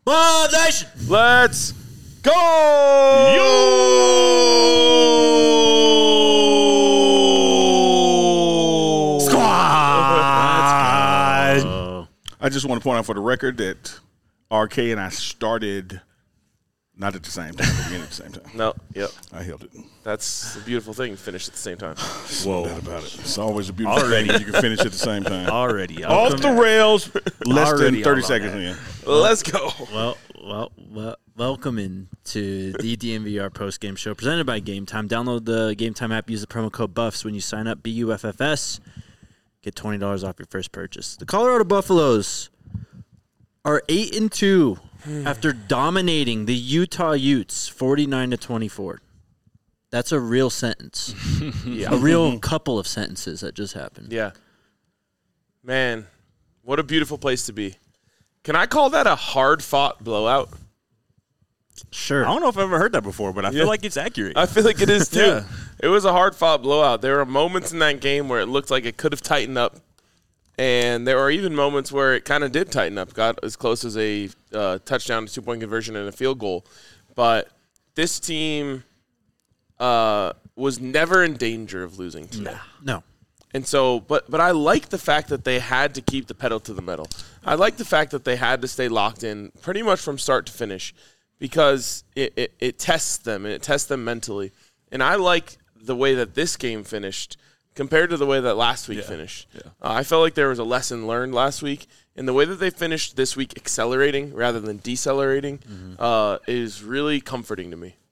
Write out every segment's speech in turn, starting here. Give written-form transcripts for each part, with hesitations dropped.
Mob Nation! Let's go! Squad! I just want to point out for the record that RK and I started not at the same time, but at the same time. No, yep. I held it. That's a beautiful thing. Finish at the same time. Whoa. About it. It's always a beautiful thing when you can finish at the same time. Already. Off the rails, less Already than 30 on seconds that. in. Let's go. Welcome into the DNVR post-game show presented by Game Time. Download the Game Time app. Use the promo code BUFFS when you sign up, BUFFS. Get $20 off your first purchase. The Colorado Buffaloes are 8-2 after dominating the Utah Utes 49-24. That's a real sentence. A real couple of sentences that just happened. Yeah. Man, what a beautiful place to be. Can I call that a hard-fought blowout? Sure. I don't know if I've ever heard that before, but I feel like it's accurate. I feel like it is, too. Yeah. It was a hard-fought blowout. There were moments in that game where it looked like it could have tightened up, and there were even moments where it kind of did tighten up, got as close as a touchdown, 2-point conversion, and a field goal. But this team was never in danger of losing today. No. And so, but I like the fact that they had to keep the pedal to the metal. I like the fact that they had to stay locked in pretty much from start to finish because it tests them, and it tests them mentally. And I like the way that this game finished compared to the way that last week finished. Yeah. I felt like there was a lesson learned last week, and the way that they finished this week accelerating rather than decelerating is really comforting to me.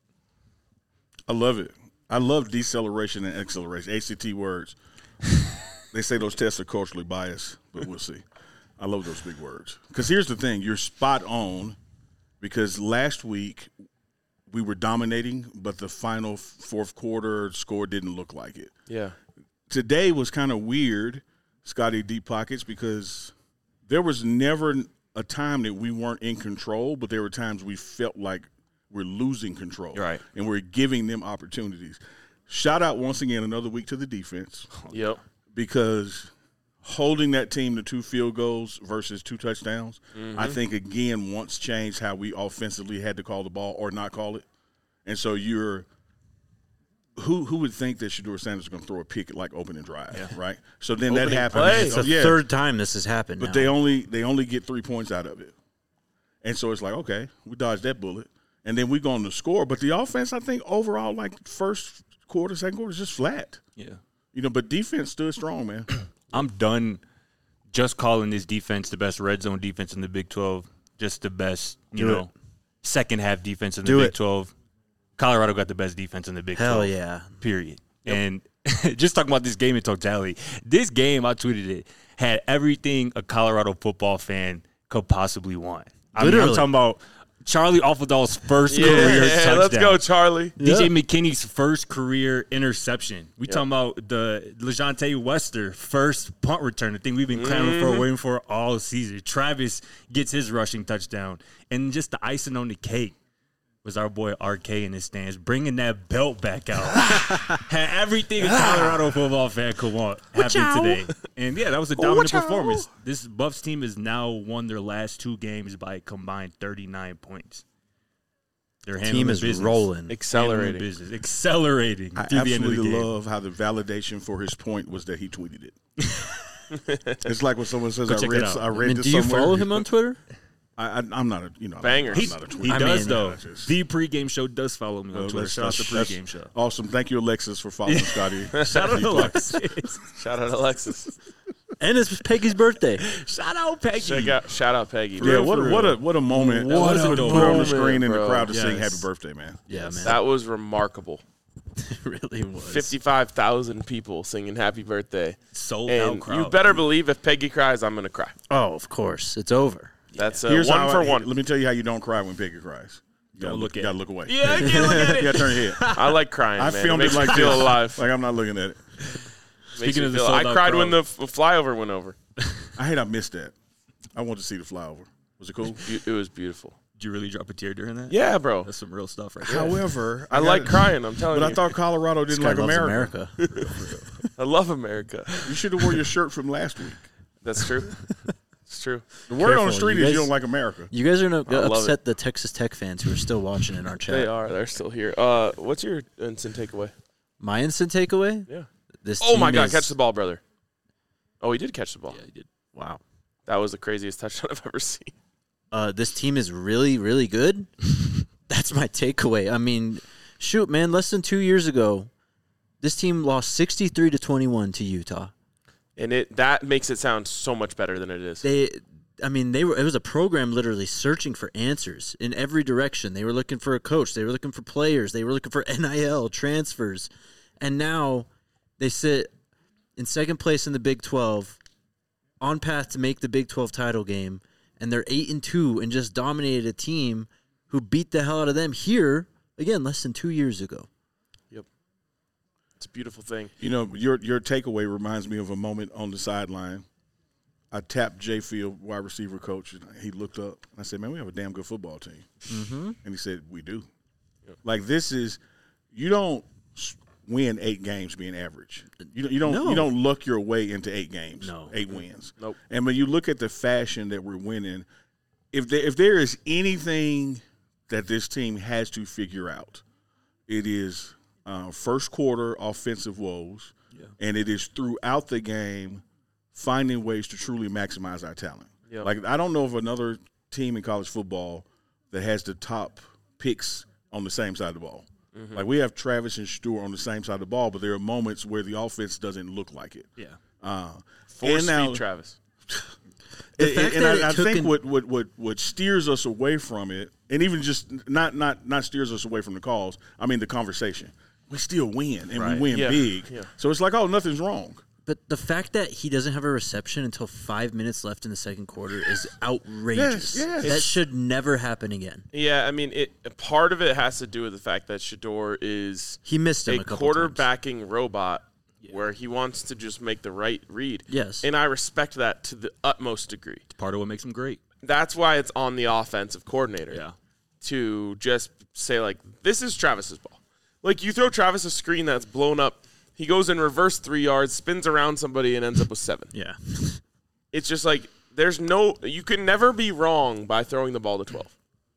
I love it. I love deceleration and acceleration, ACT words. They say those tests are culturally biased, but we'll see. I love those big words. Because here's the thing. You're spot on because last week we were dominating, but the final fourth quarter score didn't look like it. Yeah. Today was kind of weird, Scotty Deep Pockets, because there was never a time that we weren't in control, but there were times we felt like we're losing control. Right. And we're giving them opportunities. Shout out once again another week to the defense. Yep. Because holding that team to 2 field goals versus 2 touchdowns, I think, again, once changed how we offensively had to call the ball or not call it. And so you're who would think that Shedeur Sanders is going to throw a pick at like opening drive, right? So then that happens. play. It's the third time this has happened But now. they only get 3 points out of it. And so it's like, okay, we dodged that bullet. And then we go on to score. But the offense, I think, overall, like first quarter, second quarter, is just flat. Yeah. But defense stood strong, man. I'm done just calling this defense the best red zone defense in the Big 12, just the best, second half defense in the Big 12. Colorado got the best defense in the Big 12. Hell yeah. Period. Yep. And just talking about this game in totality, this game, I tweeted it, had everything a Colorado football fan could possibly want. I mean, I'm talking about Charlie Offaldall's first career touchdown. Let's go, Charlie. DJ McKinney's first career interception. We talking about the LeJontay Wester first punt return, the thing we've been clamoring for, waiting for all season. Travis gets his rushing touchdown. And just the icing on the cake was our boy RK in his stands, bringing that belt back out. Had everything a Colorado football fan could want happen today. And, that was a dominant performance. This Buffs team has now won their last 2 games by a combined 39 points. Their team is business. rolling. Accelerating. Accelerating I through the end of the absolutely game. love how the validation for his point was that he tweeted it. It's like when someone says, Go check it out. I read do this you somewhere. follow him on Twitter? I'm not a Bangers. I'm not a tweeter. He does, mean, though. just- The pregame show does follow me on Twitter. Shout out to pregame show. Awesome. Thank you, Alexis, for following Scotty. Shout out to Alexis. Shout out Alexis. And it's Peggy's birthday. Shout out Peggy. Shout out Peggy. Yeah, bro. what a moment. What to a put on the moment, screen in the bro. crowd to sing Yes. happy birthday, man. Yeah, man. That was remarkable. It really was. 55,000 people singing happy birthday. Sold out And crowd. you better believe if Peggy cries, I'm going to cry. Oh, of course. It's over. That's Here's one how for one. Let me tell you how you don't cry when Peggy cries. You Don't look at gotta it. look away. Yeah, I can't look at You it. gotta turn your head. I like crying, I man. filmed it it makes like me feel this. alive. Like I'm not looking at it. Makes Speaking me of the feel, sold I out cried when crowd. the flyover went over. I hate I missed that. I want to see the flyover. Was it cool? It was beautiful. Did you really drop a tear during that? Yeah, bro. That's some real stuff right there. However, I like crying, I'm telling But you. I thought Colorado didn't Guy like loves America. I love America. You should have wore your shirt from last week. That's true. It's true. The word on Careful, the street you is guys- you don't like America. You guys are going to love upset the Texas Tech fans who are still watching in our chat. They are. They're still here. What's your instant takeaway? My instant takeaway? Yeah. This Oh, my team God. is- Catch the ball, brother. Oh, he did catch the ball. Yeah, he did. Wow. That was the craziest touchdown I've ever seen. This team is really, really good. That's my takeaway. I mean, shoot, man, less than 2 years ago, this team lost 63-21 to Utah. And that makes it sound so much better than it is. It was a program literally searching for answers in every direction. They were looking for a coach. They were looking for players. They were looking for NIL, transfers. And now they sit in second place in the Big 12, on path to make the Big 12 title game, and they're 8-2 and just dominated a team who beat the hell out of them here, again, less than 2 years ago. Yep. It's a beautiful thing. You know, your takeaway reminds me of a moment on the sideline. I tapped Jay Field, wide receiver coach, and he looked up. I said, man, we have a damn good football team. Mm-hmm. And he said, we do. Yep. Like, this is – you don't win 8 games being average. You don't luck your way into 8 games, 8 wins. Nope. And when you look at the fashion that we're winning, if there is anything that this team has to figure out, it is first quarter offensive woes, and it is throughout the game finding ways to truly maximize our talent. Yep. Like, I don't know of another team in college football that has the top picks on the same side of the ball. Mm-hmm. Like, we have Travis and Shador on the same side of the ball, but there are moments where the offense doesn't look like it. Yeah. Force feed Travis. I think what steers us away from it, and even just not steers us away from the calls, I mean the conversation. We still win, and we win big. Yeah. So it's like, oh, nothing's wrong. But the fact that he doesn't have a reception until 5 minutes left in the second quarter is outrageous. Yes. That should never happen again. Yeah, I mean, part of it has to do with the fact that Shador is He missed him a couple quarterbacking robot where he wants to just make the right read. Yes. And I respect that to the utmost degree. It's part of what makes him great. That's why it's on the offensive coordinator. Yeah. To just say, like, this is Travis's ball. Like, you throw Travis a screen that's blown up, he goes in reverse 3 yards, spins around somebody, and ends up with 7. Yeah. It's just like, you can never be wrong by throwing the ball to 12.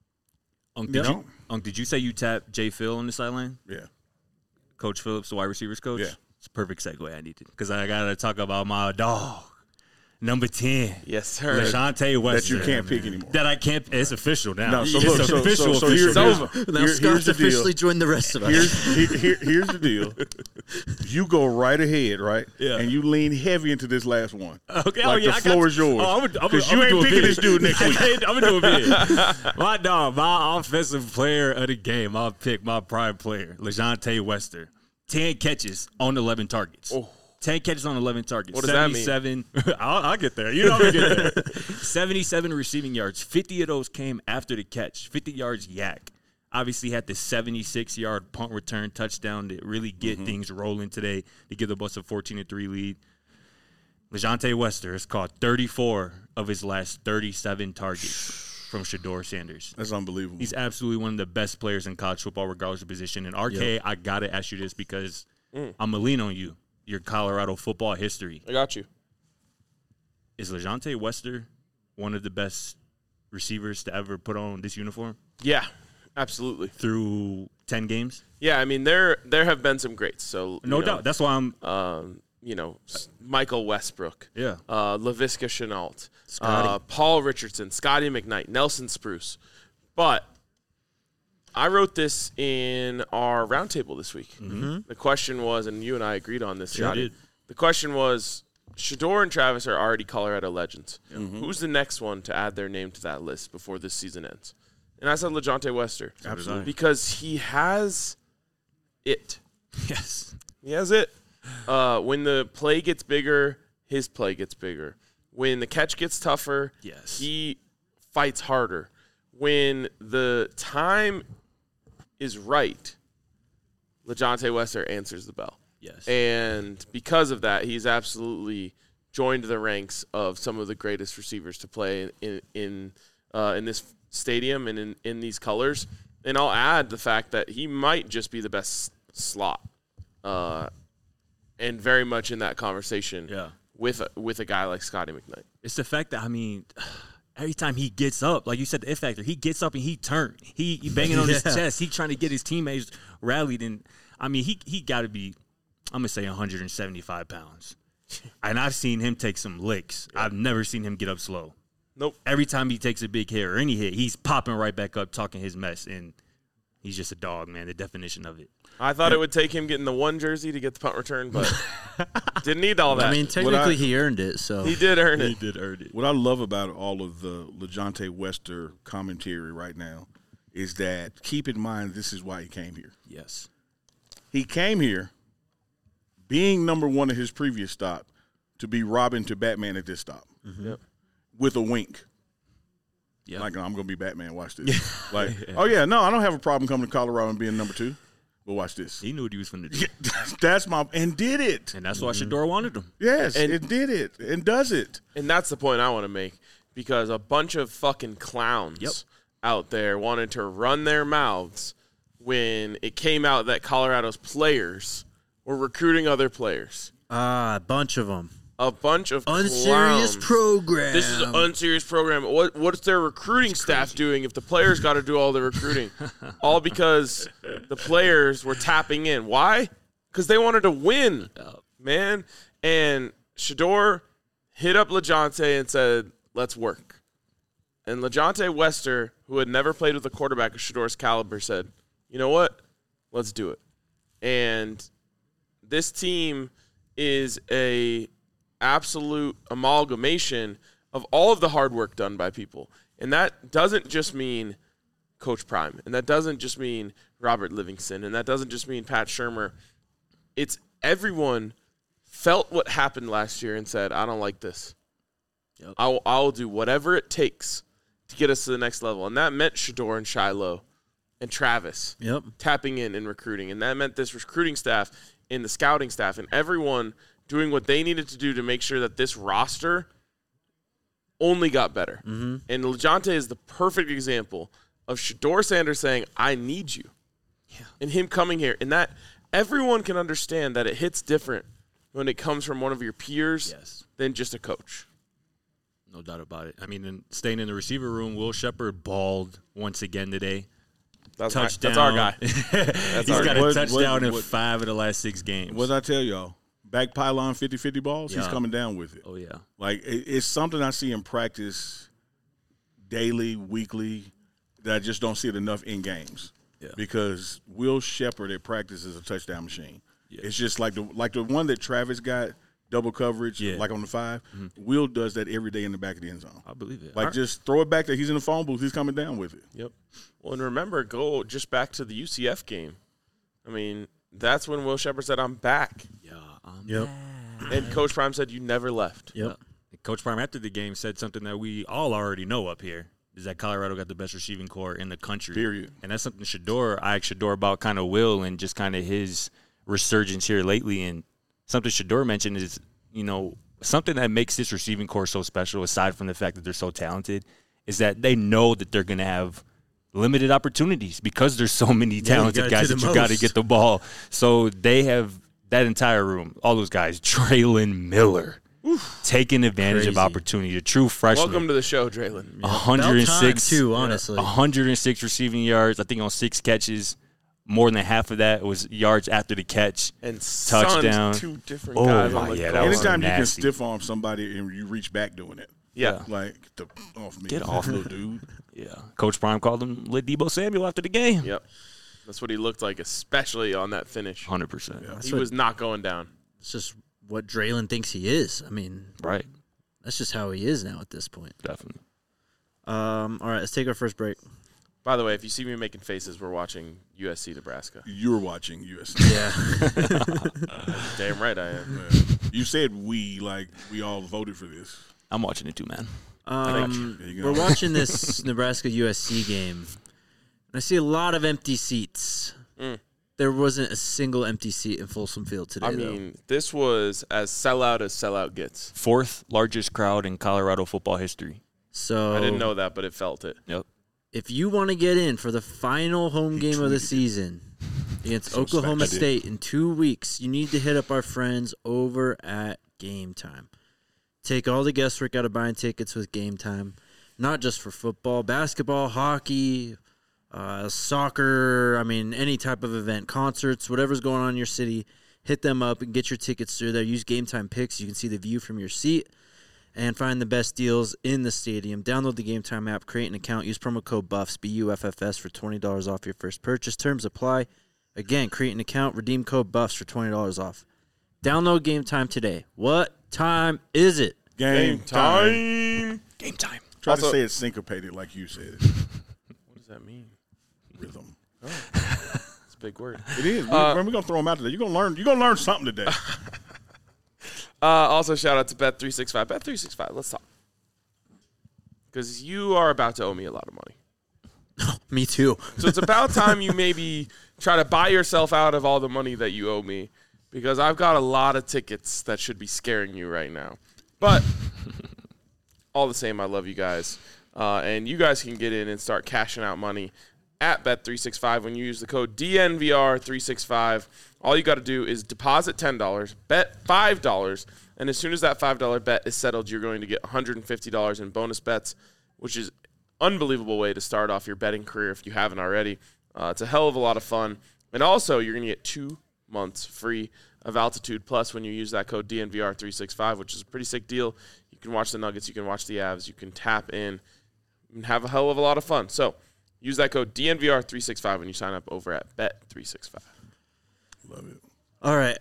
Did you say you tapped Jay Phil on the sideline? Yeah. Coach Phillips, the wide receivers coach? Yeah. It's a perfect segue I needed because I got to talk about my dog, number 10. Yes, sir. LeJante Wester. That you can't pick anymore. That I can't. It's official now. No, so it's look, official. so here's Now here's Scott's the deal. officially joined the rest of us. Here's the deal. You go right ahead, right? Yeah. And you lean heavy into this last one. Okay. Like the floor is yours. Because you ain't picking this dude next week. I'm going to do a bid. My dog, my offensive player of the game, I'll pick my prime player, LeJante Wester. 10 catches on 11 targets. Oh. 10 catches on 11 targets. What does that mean? 77. I'll get there. You know I'm going to get there. 77 receiving yards. 50 of those came after the catch. 50 yards yak. Obviously had the 76-yard punt return touchdown to really get things rolling today to give the Bucs a 14-3 lead. LeJante Wester has caught 34 of his last 37 targets from Shador Sanders. That's unbelievable. He's absolutely one of the best players in college football, regardless of position. And RK, I got to ask you this because I'm going to lean on you. Your Colorado football history. I got you. Is LeJante Wester one of the best receivers to ever put on this uniform Yeah, absolutely. through 10 games? Yeah, I mean, there have been some greats. So No doubt. That's why I'm Michael Westbrook. Yeah. LaVisca Chenault. Scotty. Paul Richardson. Scotty McKnight. Nelson Spruce. But I wrote this in our roundtable this week. Mm-hmm. The question was, and you and I agreed on this, Sure Shotty. did. The question was, Shador and Travis are already Colorado legends. Mm-hmm. Who's the next one to add their name to that list before this season ends? And I said LeJante Wester. Absolutely. Because he has it. yes. He has it. When the play gets bigger, his play gets bigger. When the catch gets tougher, Yes. he fights harder. When the time is right, LeJante Wester answers the bell. Yes. And because of that, he's absolutely joined the ranks of some of the greatest receivers to play in this stadium and in these colors. And I'll add the fact that he might just be the best slot, and very much in that conversation with a guy like Scotty McKnight. It's the fact that, I mean, every time he gets up, like you said, the F factor, he gets up and he turned. He banging on his chest. He trying to get his teammates rallied. And, I mean, he got to be, I'm going to say 175 pounds. And I've seen him take some licks. I've never seen him get up slow. Nope. Every time he takes a big hit or any hit, he's popping right back up, talking his mess. And he's just a dog, man, the definition of it. I thought it would take him getting the one jersey to get the punt return, but didn't need all that. I mean, technically he earned it, so. He did earn it. He did earn it. What I love about all of the LeJounte Wester commentary right now is that, keep in mind, this is why he came here. Yes. He came here being number one at his previous stop to be Robin to Batman at this stop. Yep. With a wink. Yeah. Like, I'm going to be Batman. Watch this. Like, oh, yeah, no, I don't have a problem coming to Colorado and being number 2. But watch this. He knew what he was finna do. That's my – and did it. And that's why Shador wanted him. Yes, And- it did it and does it. And that's the point I want to make, because a bunch of fucking clowns out there wanted to run their mouths when it came out that Colorado's players were recruiting other players. A bunch of them. A bunch of Unserious clowns. program. This is an unserious program. What's their recruiting staff doing if the players got to do all the recruiting? All because the players were tapping in. Why? Because they wanted to win, man. And Shador hit up LeJounte and said, let's work. And LeJounte Wester, who had never played with a quarterback of Shador's caliber, said, you know what? Let's do it. And this team is a absolute amalgamation of all of the hard work done by people. And that doesn't just mean Coach Prime, and that doesn't just mean Robert Livingston, and that doesn't just mean Pat Shurmur. It's everyone felt what happened last year and said, I don't like this. Yep. I'll do whatever it takes to get us to the next level. And that meant Shador and Shiloh and Travis tapping in and recruiting. And that meant this recruiting staff and the scouting staff and everyone doing what they needed to do to make sure that this roster only got better. Mm-hmm. And LeJounte is the perfect example of Shador Sanders saying, I need you. Yeah. And him coming here. And that everyone can understand that it hits different when it comes from one of your peers than just a coach. No doubt about it. I mean, and staying in the receiver room, Will Shepherd balled once again today. Touchdown. That's our guy. He's got a touchdown in 5 of the last 6 games. What did I tell y'all? Back pylon 50-50 balls, he's coming down with it. Oh, yeah. Like, it's something I see in practice daily, weekly, that I just don't see it enough in games. Yeah. Because Will Shepherd at practice is a touchdown machine. Yeah. It's just like the one that Travis got, double coverage, like on the 5. Mm-hmm. Will does that every day in the back of the end zone. I believe it. Like, just throw it back there. He's in the phone booth. He's coming down with it. Yep. Well, and remember, go just back to the UCF game. I mean, that's when Will Shepherd said, I'm back. Yeah. And Coach Prime said, you never left. Yep. Coach Prime after the game said something that we all already know up here, is that Colorado got the best receiving core in the country. Period. And that's something I asked Shador about kind of Will and just kind of his resurgence here lately. And something Shador mentioned is, something that makes this receiving core so special, aside from the fact that they're so talented, is that they know that they're going to have limited opportunities because there's so many talented guys that you got to get the ball. So they have that entire room, all those guys, Traylon Miller, taking advantage of opportunity, a true freshman. Welcome to the show, Traylon. 106 too, honestly. 106 receiving yards, I think on 6 catches. More than half of that was yards after the catch. And touchdown. 2 different guys on the that was Anytime you can nasty. stiff arm somebody and you reach back doing it. Yeah. Like, get off me. Get off, little dude. Yeah. Coach Prime called him Debo Samuel after the game. Yep. That's what he looked like, especially on that finish. 100%. Yeah. He was not going down. It's just what Draylon thinks he is. I mean, Right. that's just how he is now at this point. Definitely. All right, let's take our first break. By the way, if you see me making faces, we're watching USC Nebraska. You're watching USC. Yeah. Damn right I am. Yeah. You said we all voted for this. I'm watching it too, man. There you go. We're watching this Nebraska USC game. And I see a lot of empty seats. There wasn't a single empty seat in Folsom Field today, I mean, this was as sellout gets. 4th largest crowd in Colorado football history. So I didn't know that, but it felt it. Yep. if you want to get in for the final home game of the season against Oklahoma State in 2 weeks, you need to hit up our friends over at Game Time. Take all the guesswork out of buying tickets with Game Time. Not just for football, basketball, hockey, soccer, any type of event, concerts, whatever's going on in your city. Hit them up and get your tickets through there. Use Game Time Picks. You can see the view from your seat and find the best deals in the stadium. Download the Game Time app, create an account, use promo code BUFFS, BUFFS, for $20 off your first purchase. Terms apply. Again, create an account, redeem code BUFFS for $20 off. Download Game Time today. What time is it? Game time. Game time. Try Also- to say it syncopated like you said. What does that mean? Rhythm. It's a big word. It is. We're gonna throw them out today. You're gonna learn something today. Also, shout out to Bet365. Bet365, let's talk. Because you are about to owe me a lot of money. Me too. So it's about time you maybe try to buy yourself out of all the money that you owe me, because I've got a lot of tickets that should be scaring you right now. But all the same, I love you guys. And you guys can get in and start cashing out money at Bet365 when you use the code DNVR365. All you got to do is deposit $10, bet $5, and as soon as that $5 bet is settled, you're going to get $150 in bonus bets, which is unbelievable way to start off your betting career if you haven't already. It's a hell of a lot of fun. And also, you're going to get 2 months free of Altitude Plus when you use that code DNVR365, which is a pretty sick deal. You can watch the Nuggets, you can watch the Avs, you can tap in and have a hell of a lot of fun. So use that code DNVR365 when you sign up over at Bet365. Love it. All right.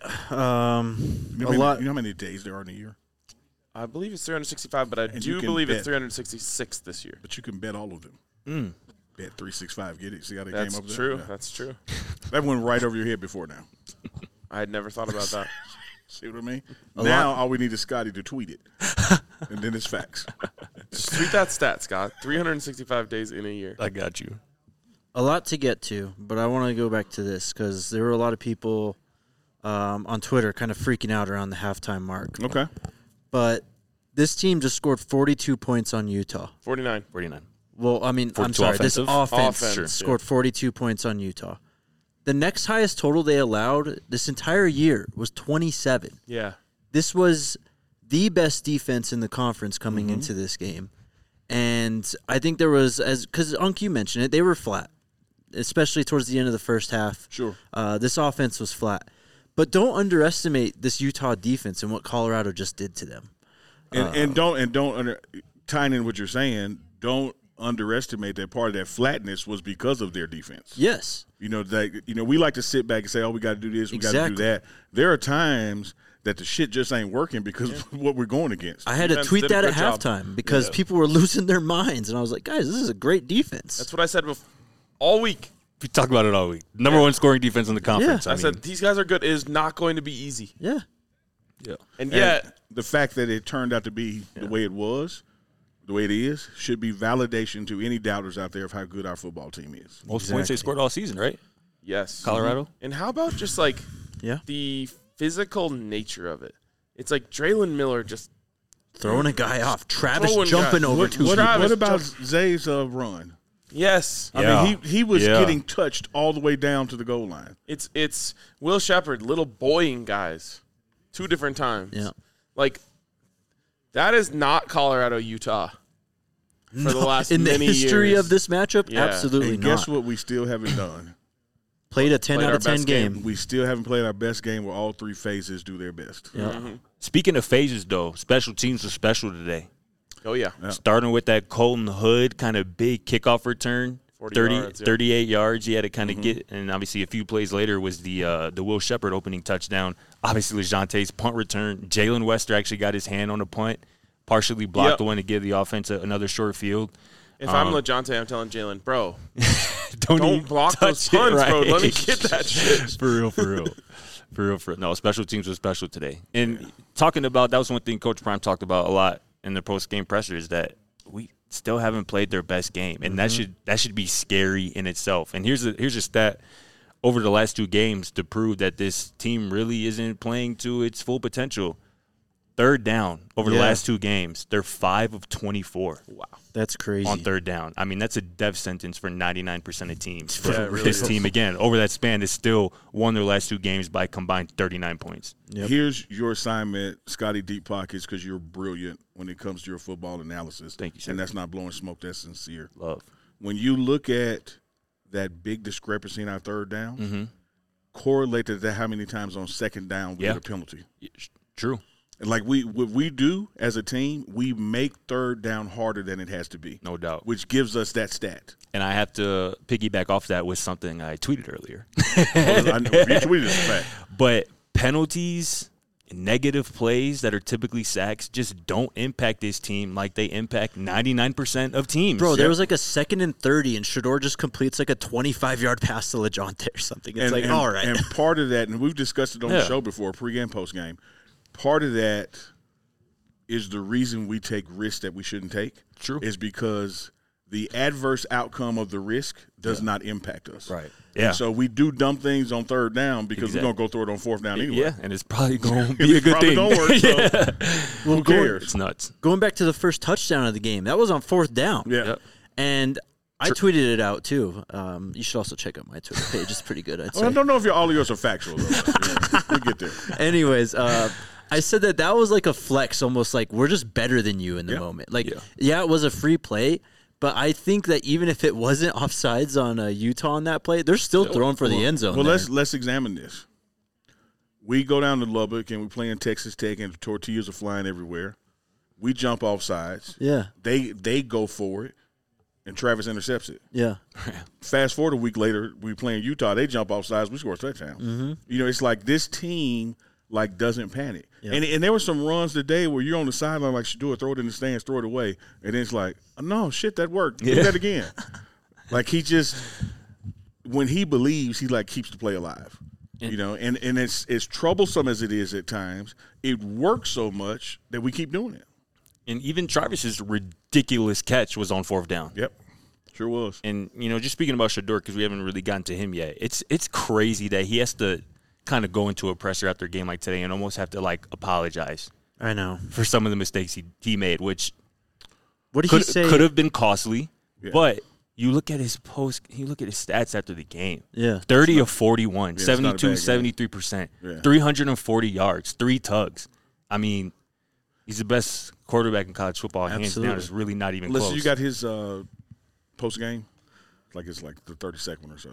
You know how many days there are in a year? I believe it's 365, but I And you do can believe it's bet. 366 this year. But you can bet all of them. Bet 365. Get it? See how they That's came up with true. that? Yeah. That's true. That went right over your head before now. I had never thought about that. See what I mean? Now all we need is Scotty to tweet it. And then it's facts. Just tweet that stat, Scott. 365 days in a year. I got you. A lot to get to, but I want to go back to this because there were a lot of people on Twitter kind of freaking out around the halftime mark. Okay. But this team just scored 42 points on Utah. 49. 49. Well, I'm 42 sorry. This offensive? offense Sure. scored 42 points on Utah. The next highest total they allowed this entire year was 27. Yeah. This was the best defense in the conference coming into this game. And I think there was, because Unc, you mentioned it, they were flat, especially towards the end of the first half. Sure. This offense was flat. But don't underestimate this Utah defense and what Colorado just did to them. And tying in what you're saying, don't underestimate that part of that flatness was because of their defense. Yes. We like to sit back and say, oh, we got to do this, we got to do Exactly. that. There are times that the shit just ain't working because of what we're going against. I had to Defense tweet did a that at good job. halftime because people were losing their minds. And I was like, guys, this is a great defense. That's what I said all week. We talk about it all week. Number one scoring defense in the conference. Yeah. I said, these guys are good. It is not going to be easy. Yeah. yeah. And And yet, the fact that it turned out to be the way it was, the way it is, should be validation to any doubters out there of how good our football team is. Most points they scored all season, right? yes. Colorado. And how about just like Yeah. the physical nature of it? It's like Draylon Miller just Throwing a guy off. Travis Throwing jumping guys. over What, two what, people. what about Zay's run? yes. I Yeah. mean, he was Yeah. getting touched all the way down to the goal line. It's Will Shepard, little boying guys, 2 different times. Yeah. Like that is not Colorado, Utah. For the last in the many history years. of this matchup, Yeah. absolutely And not. guess what we still haven't done? Played a 10 Played out our of 10 best game. game. We still haven't played our best game where all 3 phases do their best. Yeah. Speaking of phases, though, special teams were special today. Oh yeah. Starting with that Colton Hood kind of big kickoff return, 40 30, yards, yeah. 38 yards. He had to kind of get, and obviously a few plays later was the Will Shepard opening touchdown. Obviously, LeJonte's punt return. Jalen Wester actually got his hand on the punt, partially blocked Yep. the one to give the offense another short field. If I'm LeJonte, I'm telling Jalen, bro, Don't don't block those touch it, punts, bro. right? Let me get that shit. For real. For real. No, special teams were special today. And talking about, that was one thing Coach Prime talked about a lot in the post-game presser, is that we still haven't played their best game. And that should be scary in itself. And here's a stat over the last 2 games to prove that this team really isn't playing to its full potential. Third down over the Yeah. last 2 games, they're 5 of 24 That's crazy. on third down. I mean, that's a death sentence for 99% of teams. Yeah, it really This is. team, again, over that span, is still won their last 2 games by combined 39 points. Yep. Here's your assignment, Scotty Deep Pockets, because you're brilliant when it comes to your football analysis. Thank you, sir. And that's not blowing smoke. That's sincere. Love. When you look at that big discrepancy in our third down, correlate to that how many times on second down we Yeah. get a penalty. True. And like what we do as a team, we make third down harder than it has to be, No doubt. which gives us that stat. And I have to piggyback off that with something I tweeted earlier. I know, you tweeted this fact. But penalties, negative plays that are typically sacks just don't impact this team like they impact 99% of teams. Bro, there was like a 2nd and 30, and Shador just completes like a 25-yard pass to LeJohntay or something. It's like, all right. And part of that, and we've discussed it on the Yeah. show before, pre-game, post-game, part of that is the reason we take risks that we shouldn't take. True. Is because the adverse outcome of the risk does not impact us. Right. Yeah. So we do dumb things on third down because we're going to go through it on fourth down anyway. Yeah, and it's probably going to be a It's good probably thing. gonna work, so who cares? It's nuts. Going back to the first touchdown of the game, that was on 4th down. Yeah. Yep. And I tweeted it out, too. You should also check out my Twitter page. It's pretty good, I'd Well, I say. don't know if all of yours are factual, though. Yeah, we'll get there. Anyways, I said that was like a flex, almost like we're just better than you in the Yeah. moment. Like, yeah, it was a free play, but I think that even if it wasn't offsides on Utah on that play, they're still throwing for the end zone. Well, there. let's examine this. We go down to Lubbock and we play in Texas Tech and the tortillas are flying everywhere. We jump off sides. Yeah, They go for it, and Travis intercepts it. yeah. Fast forward a week later, we play in Utah. They jump off sides. We score a touchdown. Mm-hmm. You know, it's like this team doesn't panic. Yeah. And there were some runs today where you're on the sideline like Shador, throw it in the stands, throw it away, and then it's like, oh, no, shit, that worked. Do that again. Like he just when he believes, he keeps the play alive. You know, and it's as troublesome as it is at times, it works so much that we keep doing it. And even Travis's ridiculous catch was on 4th down. Yep. Sure was. And, just speaking about Shador, because we haven't really gotten to him yet, it's crazy that he has to kind of go into a presser after a game like today and almost have to, apologize I know. for some of the mistakes he made, which What did he say? could have been costly. Yeah. But you look at his stats after the game. Yeah. 30 of 41, it's not a bad 72, game. 73%, Yeah. 340 yards, 3 tugs. I mean, he's the best quarterback in college football, hands Absolutely. down. It's really not even Listen, close. you got his post game, it's the 32nd or so.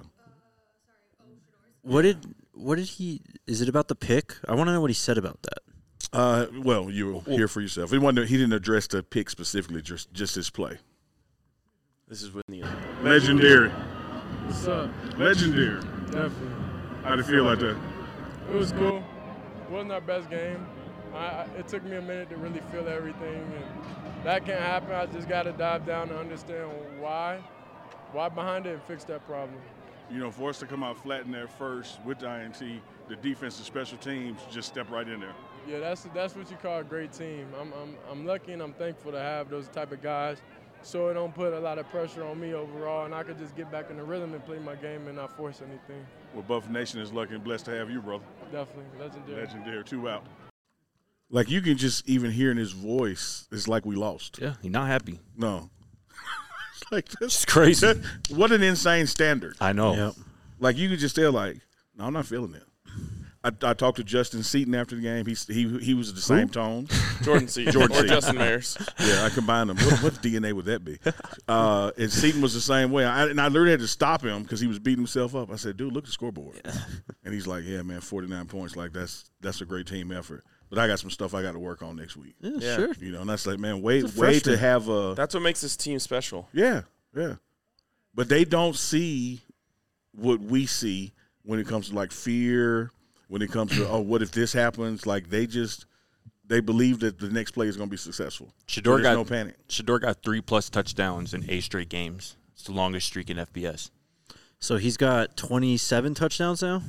What did he? Is it about the pick? I want to know what he said about that. Well, you'll hear for yourself. He didn't address the pick specifically, just his play. This is with the Legendary, What's up? legendary. Definitely. How do you feel like that? It was cool. Wasn't our best game. It took me a minute to really feel everything, and that can't happen. I just got to dive down and understand why behind it, and fix that problem. You know, for us to come out flat in there first with the INT, the defense and special teams just step right in there. Yeah, that's what you call a great team. I'm lucky and I'm thankful to have those type of guys, so it don't put a lot of pressure on me overall, and I could just get back in the rhythm and play my game and not force anything. Well, Buff Nation is lucky and blessed to have you, brother. Definitely, legendary. Legendary, 2 out. Like, you can just even hear in his voice, it's like we lost. Yeah, he's not happy. No. It's like this. It's crazy. What an insane standard. I know. Yep. Like, you could just tell, no, I'm not feeling it. I talked to Justin Seaton after the game. He was the same tone. Jordan Seaton Jordan or Seaton. Justin Mayers. Yeah, I combined them. What DNA would that be? And Seaton was the same way. I literally had to stop him because he was beating himself up. I said, dude, look at the scoreboard. And he's like, yeah, man, 49 points. Like, that's a great team effort. But I got some stuff I got to work on next week. Yeah, sure. You know, and that's like, man, way freshman. to have a – That's what makes this team special. yeah. But they don't see what we see when it comes to, fear, when it comes to, what if this happens? Like, they believe that the next play is going to be successful. Shador There's no panic. Shador got 3+ touchdowns in 8 straight games. It's the longest streak in FBS. So he's got 27 touchdowns now.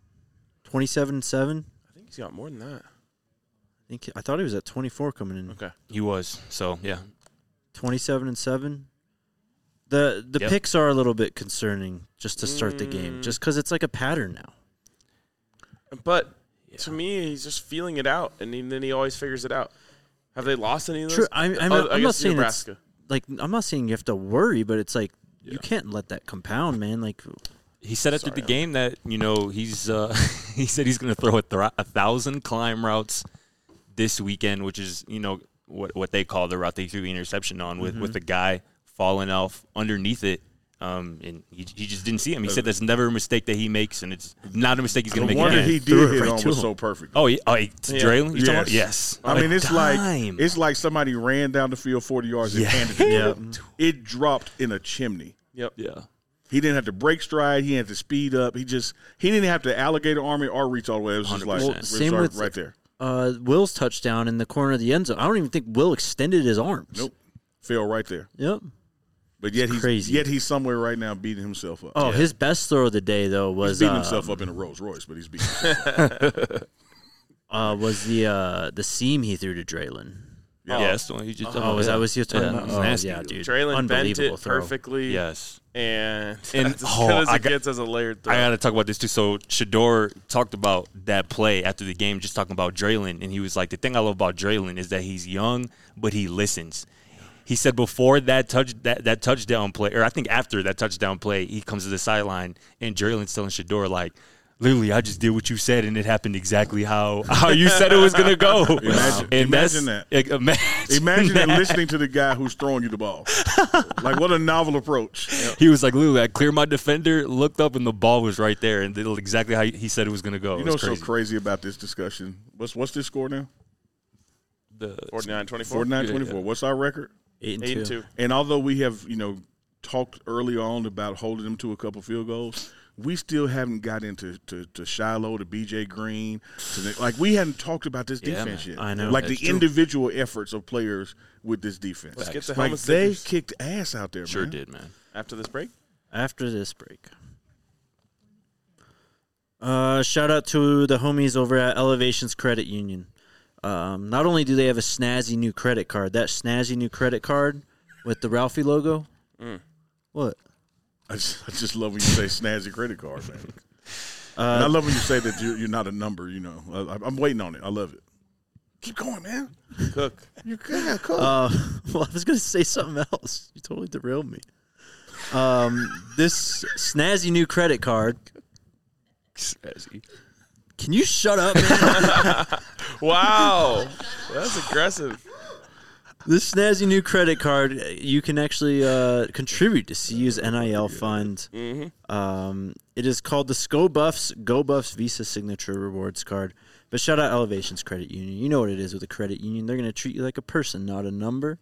27-7. I think he's got more than that. I thought he was at 24 coming in. Okay. He was. So, yeah. 27-7. The Yep. picks are a little bit concerning just to start the game, just because it's like a pattern now. But to me, he's just feeling it out, and then he always figures it out. Have they lost any of those? True. I'm not guess saying Nebraska. I'm not saying you have to worry, but it's like you can't let that compound, man. Like He said after the game that he's he said he's going to throw 1,000 climb routes this weekend, which is what they call the route they threw the interception on with the guy falling off underneath it. And he just didn't see him. He said that's never a mistake that he makes, and it's not a mistake he's going to The make one that again. he did hit on was so perfect. Oh, Draylen? You're talking about? Yes. Yes. I mean, Time. it's like somebody ran down the field 40 yards and handed it. Yeah. It dropped in a chimney. Yep. Yeah. He didn't have to break stride. He didn't have to speed up. He didn't have to alligator arm it or reach all the way. It was just like 100%. it was Same with right there. Will's touchdown in the corner of the end zone. I don't even think Will extended his arms. Nope. Fell right there. Yep. But yet crazy. he's somewhere right now beating himself up. Oh, his best throw of the day though was He's beating himself up in a Rolls Royce, but he's beating was the seam he threw to Draylen. Yeah. Yes. The one he just Oh, was that what you were talking Yeah, about? it was Oh, nasty. yeah, dude. Draylen bent Unbelievable it throw. perfectly. Yes. And And- that's as oh, good as I it got- gets as a layered throw. I got to talk about this too. So Shador talked about that play after the game, just talking about Draylen, and he was like, "The thing I love about Draylen is that he's young, but he listens." He said before that touchdown play, or I think after that touchdown play, he comes to the sideline and Draylen's telling Shador like, "Literally, I just did what you said, and it happened exactly how you said it was gonna go." Imagine that. Imagine that listening to the guy who's throwing you the ball. Like, what a novel approach. He was like, "Literally, I cleared my defender, looked up, and the ball was right there, and did exactly how he said it was gonna go." You know what's so crazy about this discussion? What's this score now? The 49-24. 49-24. What's our record? 8-2. And although we have, talked early on about holding them to a couple field goals, we still haven't got into to Shiloh, to BJ Green. We hadn't talked about this defense yet. I know. Like That's the true. individual efforts of players with this defense. Let's get the Like helmet they stickers kicked ass out there, sure man. did, man. after this break. After this break. Shout out to the homies over at Elevations Credit Union. Not only do they have a snazzy new credit card, that snazzy new credit card with the Ralphie logo. What? I just love when you say snazzy credit card, man. And I love when you say that you're not a number, I'm waiting on it. I love it. Keep going, man. Cook. You're good. Cool. Well, I was going to say something else. You totally derailed me. This snazzy new credit card. Can you shut up, man? Wow. That's aggressive. This snazzy new credit card, you can actually contribute to CU's NIL fund. It is called the Go Buffs Visa Signature Rewards Card. But shout out Elevations Credit Union. You know what it is with a credit union. They're going to treat you like a person, not a number.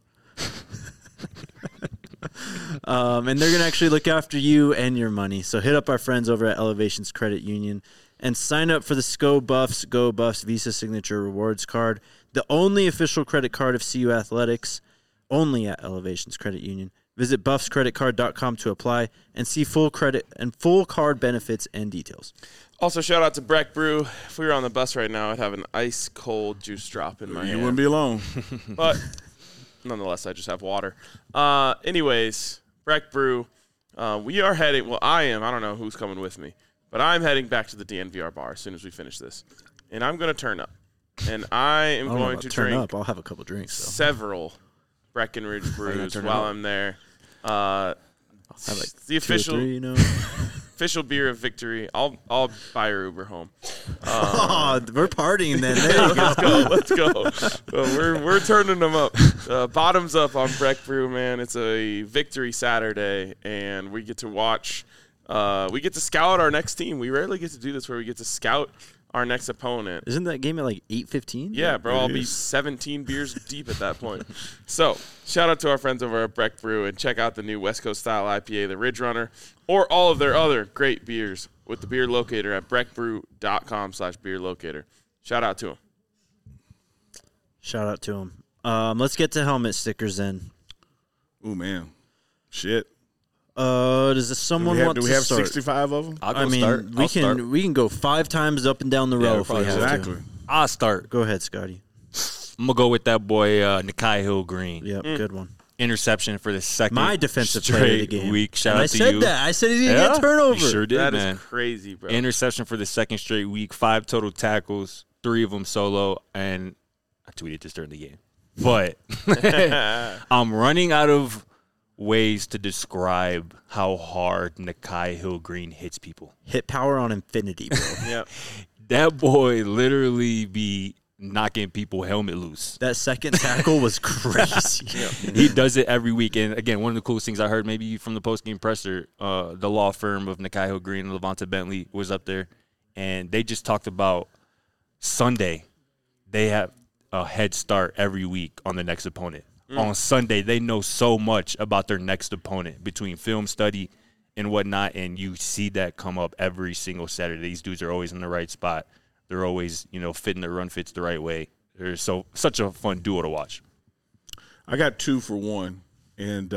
And they're going to actually look after you and your money. So hit up our friends over at Elevations Credit Union and sign up for the Go Buffs Visa Signature Rewards Card, the only official credit card of CU Athletics, only at Elevations Credit Union. Visit buffscreditcard.com to apply and see full credit and full card benefits and details. Also, shout out to Breck Brew. If we were on the bus right now, I'd have an ice cold juice drop in my You hand. wouldn't be alone. But nonetheless, I just have water. Anyways, Breck Brew, we are heading. Well, I am. I don't know who's coming with me, but I'm heading back to the DNVR bar as soon as we finish this, and I'm going to turn up, and I am I don't know going about to turn drink up. I'll have a couple drinks. So. several Breckenridge brews turn while up? I'm there. I'll have like The 2 or 3, official beer of victory. I'll buy your Uber home. Oh, we're partying then. There you go. Let's go. We're turning them up. Bottoms up on Breck Brew, man. It's a victory Saturday, and we get to watch. We get to scout our next team. We rarely get to do this where we get to scout our next opponent. Isn't that game at like 8:15? Yeah, bro. I'll be is. 17 beers deep at that point. So, shout out to our friends over at Breck Brew, and check out the new West Coast style IPA, the Ridge Runner, or all of their other great beers with the beer locator at breckbrew.com/beer locator. Shout out to them. Shout out to him. Let's get to helmet stickers then. Ooh, man. Shit. Does someone want Do to we have start? 65 of them? I'll go I mean, start. we I'll can start. we can go 5 times up and down the row if we probably have Exactly. to. I'll start. Go ahead, Scotty. I'm gonna go with that boy Nikai Hill Green. Yep, good one. interception for the second My defensive player of the straight game. week. Shout And out I to said you. that. I said he didn't get turnover. You sure did, That man. is crazy, bro. Interception for the second straight week, 5 total tackles, 3 of them solo, and I tweeted this during the game. But I'm running out of ways to describe how hard Nakai Hill-Green hits people. Hit power on infinity, bro. Yeah. That boy literally be knocking people helmet loose. That second tackle was crazy. He does it every week. And again, one of the coolest things I heard maybe from the post-game presser, the law firm of Nakai Hill-Green and Levante Bentley was up there, and they just talked about Sunday. They have a head start every week on the next opponent. On Sunday, they know so much about their next opponent between film study and whatnot, and you see that come up every single Saturday. These dudes are always in the right spot. They're always, fitting their run fits the right way. They're such a fun duo to watch. I got 2 for 1, and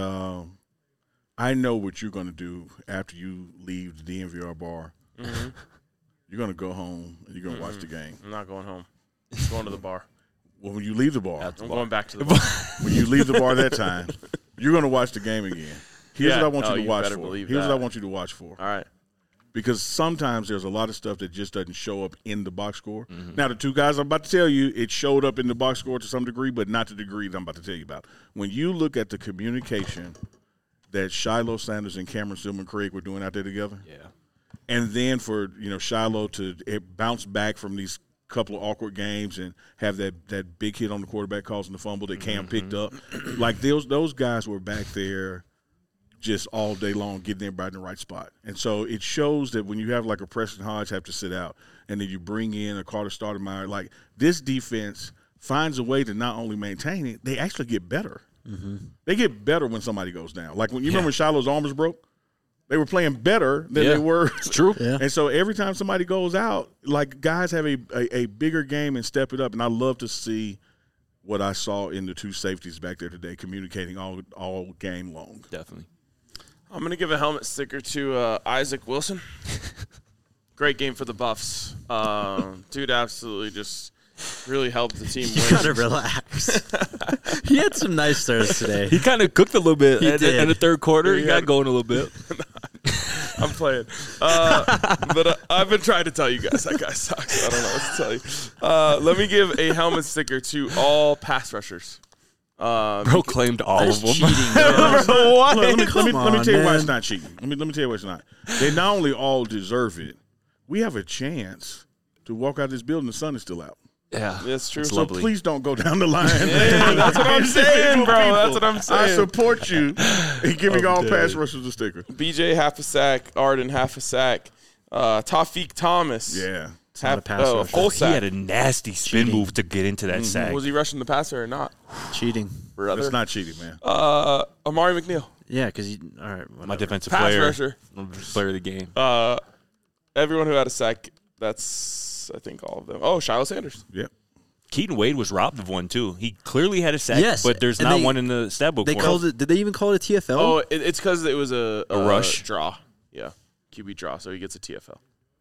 I know what you're going to do after you leave the DNVR bar. Mm-hmm. You're going to go home and you're going to watch the game. I'm not going home. I'm going to the bar. Well, when you leave the bar, I'm going back to the bar. when you leave the bar that time, you're going to watch the game again. Here's Yeah. what I want you Oh, to you watch better for. believe Here's what I that. want you to watch for. All right. Because sometimes there's a lot of stuff that just doesn't show up in the box score. Mm-hmm. Now, the 2 guys I'm about to tell you, it showed up in the box score to some degree, but not to the degree that I'm about to tell you about. When you look at the communication that Shiloh Sanders and Cameron Stillman Craig were doing out there together, Yeah. and then for Shiloh to bounce back from these couple of awkward games and have that big hit on the quarterback causing the fumble that Cam picked up, like those guys were back there just all day long getting everybody in the right spot. And so it shows that when you have like a Preston Hodge have to sit out and then you bring in a Carter Stoudemire, like this defense finds a way to not only maintain it, they actually get better. Mm-hmm. They get better when somebody goes down. Like when you remember Shiloh's arm was broke? They were playing better than they were. It's true. Yeah. And so every time somebody goes out, like guys have a bigger game and step it up. And I love to see what I saw in the 2 safeties back there today, communicating all game long. Definitely. I'm going to give a helmet sticker to Isaac Wilson. Great game for the Buffs. Dude absolutely just really helped the team You win. gotta relax. He had some nice throws today. He kind of cooked a little bit He in did. the third quarter. He Yeah. got going a little bit. I'm playing. But I've been trying to tell you guys that guy sucks. I don't know what to tell you. Let me give a helmet sticker to all pass rushers. Bro claimed all of them. Cheating, bro. What? Look, let me Come tell you on, why it's man. not cheating. Let me tell you why it's not. They not only all deserve it, we have a chance to walk out of this building. The sun is still out. Yeah, That's true. It's So lovely. Please don't go down the line. Yeah, that's what I'm saying, bro. That's what I'm I saying. support you in giving all pass rushers a sticker. BJ half a sack, Arden half a sack, Tawfiq Thomas. Yeah. not a pass rusher. full He sack. had a nasty spin Cheating. move to get into that sack. Was he rushing the passer or not, Cheating. brother? That's not cheating, man. Amari McNeil, Yeah, because you. All right. My Whatever. defensive pass player, rusher. player of the game. Everyone who had a sack. That's I think all of them. Oh, Shiloh Sanders. Yep. Keaton Wade was robbed of one too. He clearly had a sack, Yes, but there's and not they- one in the stat book. They for called him. it. Did they even call it a TFL? Oh, it's because it was a rush? draw. Yeah, QB draw. So he gets a TFL.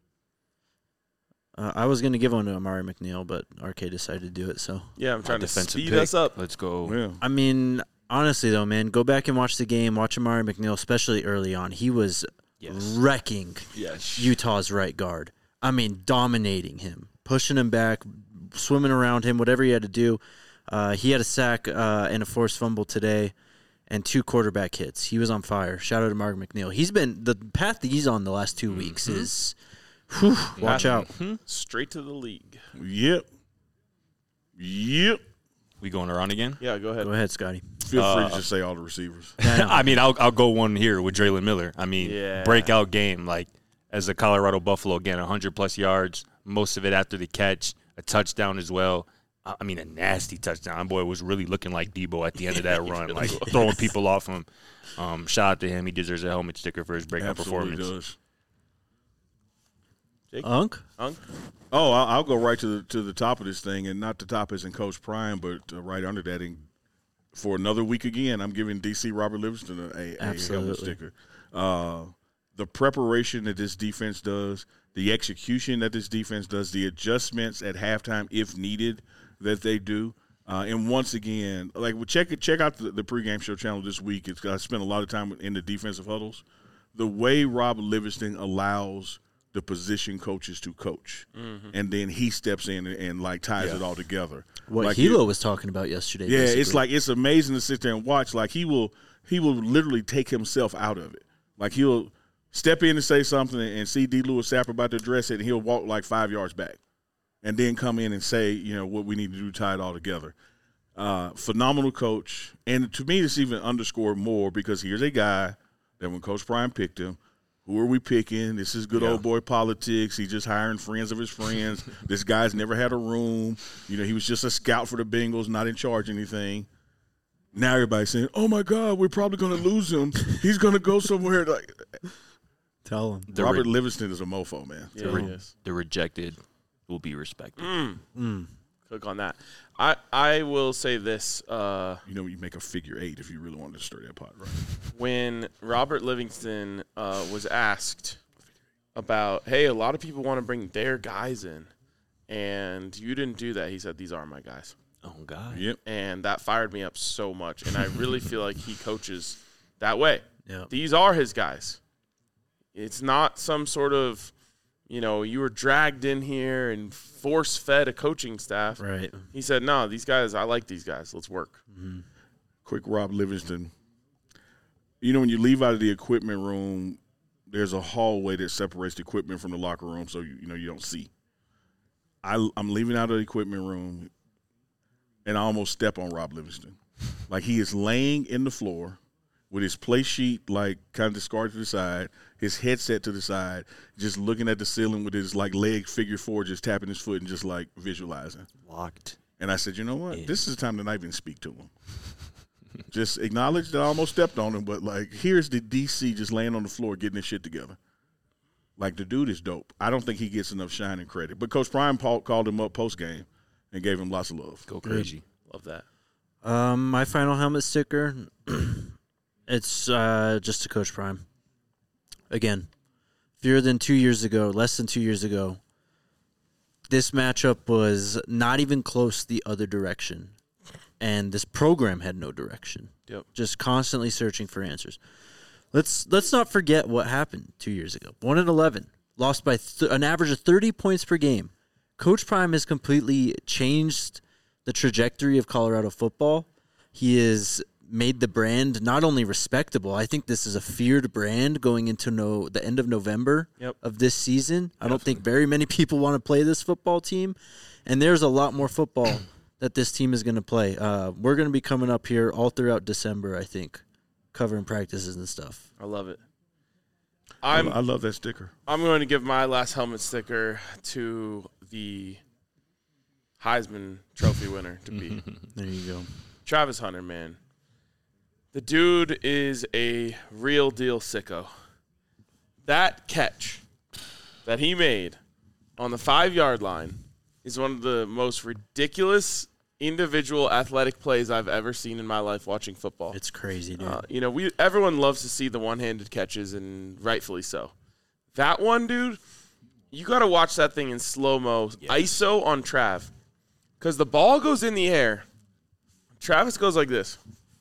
I was gonna give one to Amari McNeil, but RK decided to do it. So Yeah, I'm trying to defensive speed pick. us up. Let's go. Yeah. I mean, honestly though, man, go back and watch the game. Watch Amari McNeil, especially early on. He was wrecking Yes. Utah's right guard. I mean, dominating him, pushing him back, swimming around him, whatever he had to do. He had a sack and a forced fumble today and 2 quarterback hits. He was on fire. Shout out to Mark McNeil. He's been – the path that he's on the last 2 weeks is watch out. Straight to the league. Yep. Yep. We going around again? Yeah, go ahead. Go ahead, Scotty. Feel free to just say all the receivers. I mean, I'll go one here with Draylon Miller. I mean, Yeah. breakout game. Like, as a Colorado Buffalo, again, 100-plus yards, most of it after the catch, a touchdown as well. I mean, a nasty touchdown. Boy, was really looking like Debo at the end of that run, like throwing people off him. Shout out to him. He deserves a helmet sticker for his breakout Absolutely performance. does. Unk? Unk? Oh, I'll go right to the top of this thing, and not the top as in Coach Prime, but right under that. And for another week again, I'm giving DC Robert Livingston a helmet Absolutely. sticker. The preparation that this defense does, the execution that this defense does, the adjustments at halftime if needed that they do. And once again, like check out the pregame show channel this week. I spent a lot of time in the defensive huddles. The way Rob Livingston allows the position coaches to coach, and then he steps in and like ties it all together. What like Hilo was talking about yesterday. Yeah, basically. it's amazing to sit there and watch. Like he will literally take himself out of it. Like he'll step in and say something and see D. Lewis Sapper about to address it, and he'll walk like 5 yards back, and then come in and say, what we need to do to tie it all together. Phenomenal coach, and to me, this even underscored more because here's a guy that when Coach Prime picked him, who are we picking? This is good old boy politics. He's just hiring friends of his friends. This guy's never had a room. He was just a scout for the Bengals, not in charge of anything. Now everybody's saying, "Oh my God, we're probably going to lose him. He's going to go somewhere." Like, tell him. Robert Livingston is a mofo, man. Yeah, he is. The rejected will be respected. Click on that. I will say this. You make a figure 8 if you really wanted to stir that pot, right? When Robert Livingston was asked about, hey, a lot of people want to bring their guys in, and you didn't do that, he said, these are my guys. Oh, God. Yep. And that fired me up so much, and I really feel like he coaches that way. Yep. These are his guys. It's not some sort of, you were dragged in here and force-fed a coaching staff. Right. He said, no, these guys, I like these guys. Let's work. Mm-hmm. Quick Rob Livingston. When you leave out of the equipment room, there's a hallway that separates the equipment from the locker room, so you don't see. I'm leaving out of the equipment room, and I almost step on Rob Livingston. Like he is laying in the floor with his play sheet like kind of discarded to the side, his headset to the side, just looking at the ceiling with his like leg figure 4, just tapping his foot and just like visualizing. Locked. And I said, you know what? This is the time to not even speak to him. Just acknowledge that I almost stepped on him, but like here's the DC just laying on the floor getting his shit together. Like the dude is dope. I don't think he gets enough shine and credit. But Coach Prime called him up post game and gave him lots of love. Go crazy. Love that. My final helmet sticker, it's just to Coach Prime. Again, less than 2 years ago, this matchup was not even close the other direction. And this program had no direction. Yep. Just constantly searching for answers. Let's not forget what happened 2 years ago. 1-11, lost by an average of 30 points per game. Coach Prime has completely changed the trajectory of Colorado football. He has made the brand not only respectable, I think this is a feared brand going into the end of November of this season. I don't think very many people want to play this football team. And there's a lot more football that this team is going to play. We're going to be coming up here all throughout December, I think, covering practices and stuff. I love it. I love that sticker. I'm going to give my last helmet sticker to the Heisman Trophy winner to be. There you go. Travis Hunter, man. The dude is a real deal sicko. That catch that he made on the 5-yard line is one of the most ridiculous individual athletic plays I've ever seen in my life watching football. It's crazy, dude. Everyone loves to see the one-handed catches, and rightfully so. That one, dude, you got to watch that thing in slow-mo, ISO on Trav, because the ball goes in the air. Travis goes like this.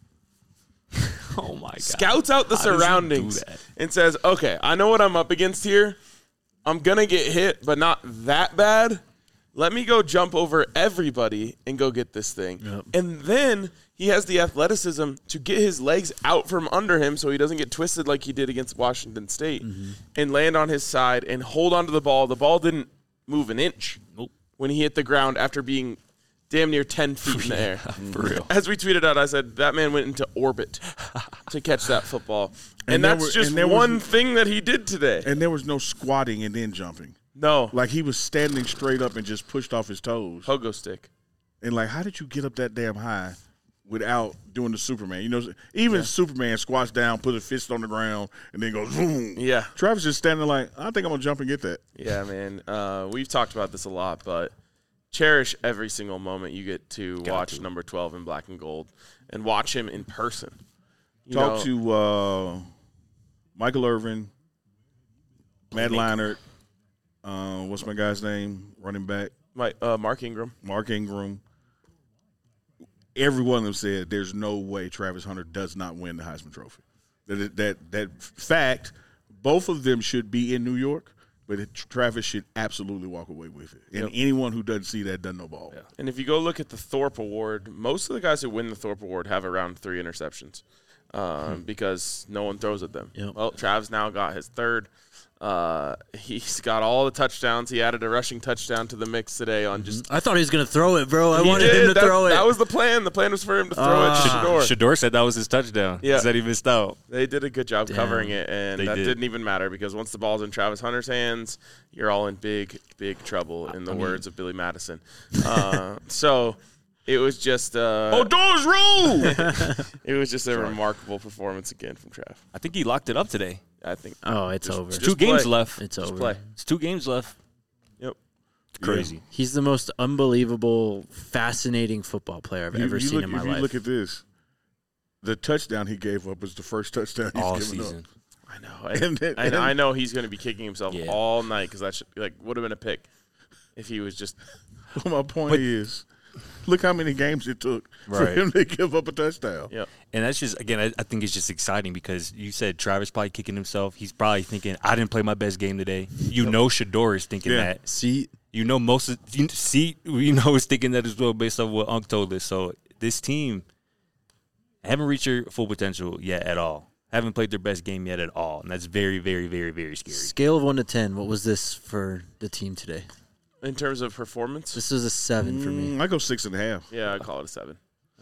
Oh, my God. Scouts out the surroundings and says, okay, I know what I'm up against here. I'm going to get hit, but not that bad. Let me go jump over everybody and go get this thing. Yep. And then he has the athleticism to get his legs out from under him so he doesn't get twisted like he did against Washington State and land on his side and hold onto the ball. The ball didn't move an inch when he hit the ground after being damn near 10 feet in the air. For real. As we tweeted out, I said, that man went into orbit to catch that football. And that's just one thing that he did today. And there was no squatting and then jumping. No. Like he was standing straight up and just pushed off his toes. Pogo stick. And like, how did you get up that damn high without doing the Superman? Even Superman squats down, put a fist on the ground, and then goes boom. Yeah. Travis just standing like, I think I'm going to jump and get that. Yeah, man. We've talked about this a lot, but cherish every single moment you get to watch number 12 in black and gold and watch him in person. Talk to Michael Irvin, Matt Leinart, what's my guy's name? Running back. Mark Ingram. Mark Ingram. every one of them said there's no way Travis Hunter does not win the Heisman Trophy. That fact, both of them should be in New York, but Travis should absolutely walk away with it. And anyone who doesn't see that doesn't know ball. Yeah. And if you go look at the Thorpe Award, most of the guys who win the Thorpe Award have around 3 interceptions because no one throws at them. Yep. Well, Travis now got his 3rd. He's got all the touchdowns. He added a rushing touchdown to the mix today on just. I thought he was going to throw it, bro. I He wanted did. him to throw it. That was the plan. The plan was for him to throw it to Shador. Shador said that was his touchdown. Yeah. He said he missed out. They did a good job Damn. covering it, and They that did. didn't even matter because once the ball's in Travis Hunter's hands, you're all in big, big trouble, in the words of Billy Madison. So it was just Doors rule! it was just a remarkable performance again from Trav. I think he locked it up today. I think Oh, it's over. just 2 games play. left. It's just over. play. It's 2 games left. Yep. Crazy. He's the most unbelievable, fascinating football player I've ever seen in my If life. you look at this, the touchdown he gave up was the first touchdown he's All given season. up. I know. And I know he's going to be kicking himself Yeah. all night because that would have been a pick if he was just. My point is, look how many games it took for Right. him to give up a touchdown. Yep. And that's just, again, I think it's just exciting because you said Travis probably kicking himself. He's probably thinking, I didn't play my best game today. You know Shador is thinking Yeah. that. See, You know most of – is thinking that as well based on what Unc told us. So this team haven't reached their full potential yet at all. Haven't played their best game yet at all. And that's very, very, very, very scary. scale of 1 to 10, what was this for the team today? In terms of performance, This was a 7 for me. I go 6.5. yeah, I'd call it a 7.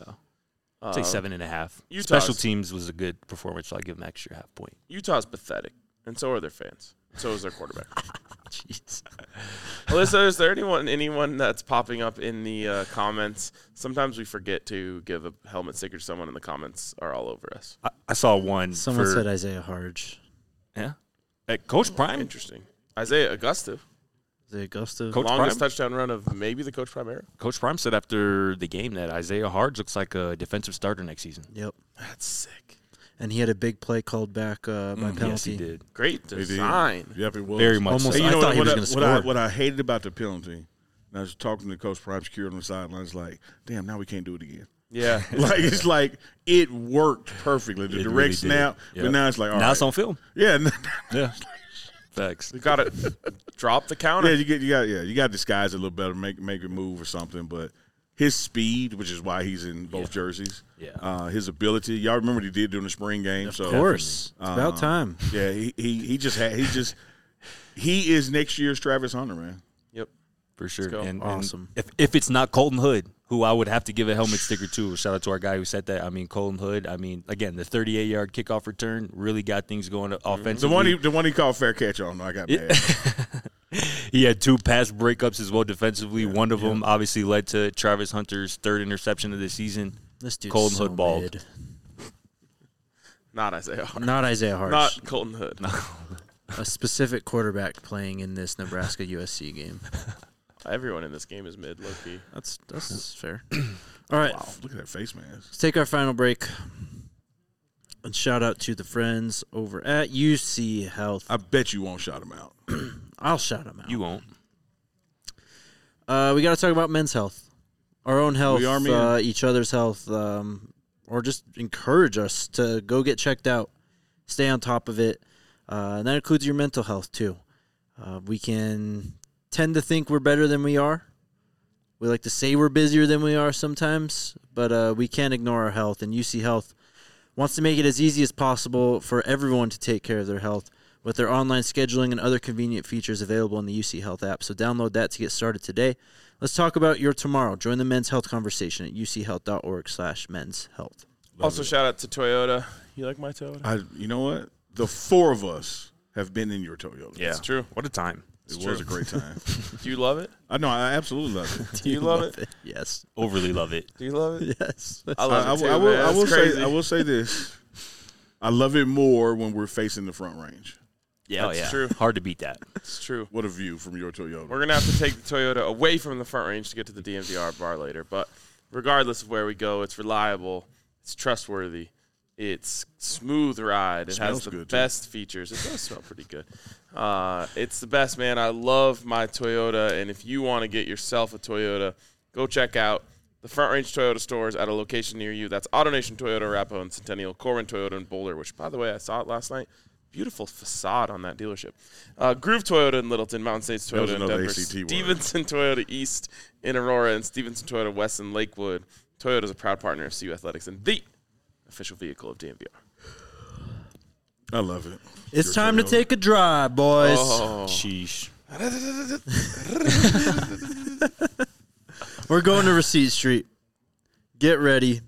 I'd say 7.5. Utah's- Special teams was a good performance, so I'll give them an extra half point. Utah's pathetic, and so are their fans. So is their quarterback. Jeez. Alyssa, is there anyone that's popping up in the comments? Sometimes we forget to give a helmet sticker to someone, and the comments are all over us. I saw one. Someone for, said Isaiah Harge. yeah. Coach Prime. Interesting. Isaiah Augusta, Isaiah Gustav. Coach longest Prime? touchdown run of maybe the Coach Prime era. Coach Prime said after the game that Isaiah Harge looks like a defensive starter next season. Yep. That's sick. And he had a big play called back by penalty. Yes, he did. Great They did. design. Yep, it was. Very much Almost. so. Hey, you I know thought he was what, gonna what score. what I hated about the penalty, and I was talking to Coach Prime security on the sidelines, like, damn, now we can't do it again. Yeah. Like, it's like it worked perfectly. The It direct really did. snap, Yep. but now it's like, all Now right. it's on film. Yeah, Yeah. Facts. We got to drop the yeah, counter. you got to disguise it a little better, make it move or something. But his speed, which is why he's in both jerseys, his ability. Y'all remember what he did during the spring game? Of So course. It's about time. yeah, he is next year's Travis Hunter, man. Yep. For sure. go. And Awesome. if it's not Colton Hood, who I would have to give a helmet sticker to, shout out to our guy who said that. I mean, Colton Hood, again, the 38-yard kickoff return really got things going offensively. The one he called fair catch on, I got mad. He had 2 pass breakups as well defensively. One of them obviously led to Travis Hunter's 3rd interception of the season. This dude's Colton so Hood balled. mid. Not Isaiah Harge. Not Isaiah Harge. Not Colton Hood. A specific quarterback playing in this Nebraska USC game. Everyone in this game is mid, low key. That's fair. All right. Wow, look at that face mask. Let's take our final break. And shout out to the friends over at UC Health. I bet you won't shout him out. I'll shout them out. You won't. We got to talk about men's health, our own health, We are men. each other's health, or just encourage us to go get checked out, stay on top of it. And that includes your mental health too. We can tend to think we're better than we are. We like to say we're busier than we are sometimes, but we can't ignore our health. And UC Health wants to make it as easy as possible for everyone to take care of their health with their online scheduling and other convenient features available in the UC Health app. So download that to get started today. Let's talk about your tomorrow. Join the men's health conversation at uchealth.org/men's health. Also, shout out to Toyota. You like my Toyota? You know what? The 4 of us have been in your Toyota. Yeah. It's true. What a time. It was a great time. Do you love it? I know. I absolutely love it. Do you love it? Yes. Overly love it. Do you love it? Yes. I love it too, I man. will It's crazy. I will say this. I love it more when we're facing the front range. Yeah, That's true. Hard to beat that. It's true. What a view from your Toyota. We're going to have to take the Toyota away from the front range to get to the DMVR bar later. But regardless of where we go, it's reliable. It's trustworthy. It's smooth ride. It has Smells the good, too. best features. It does smell pretty good. It's the best, man. I love my Toyota. And if you want to get yourself a Toyota, go check out the Front Range Toyota stores at a location near you. That's AutoNation Toyota, Arapahoe and Centennial, Corbin Toyota in Boulder, which, by the way, I saw it last night. Beautiful facade on that dealership. Groove Toyota in Littleton, Mountain States Toyota in Denver, Stevenson Toyota East in Aurora, and Stevenson Toyota West in Lakewood. Toyota is a proud partner of CU Athletics and the official vehicle of DMVR. I love it. It's time to take a drive, boys. Oh. Sheesh. We're going to Receipt Street. Get ready.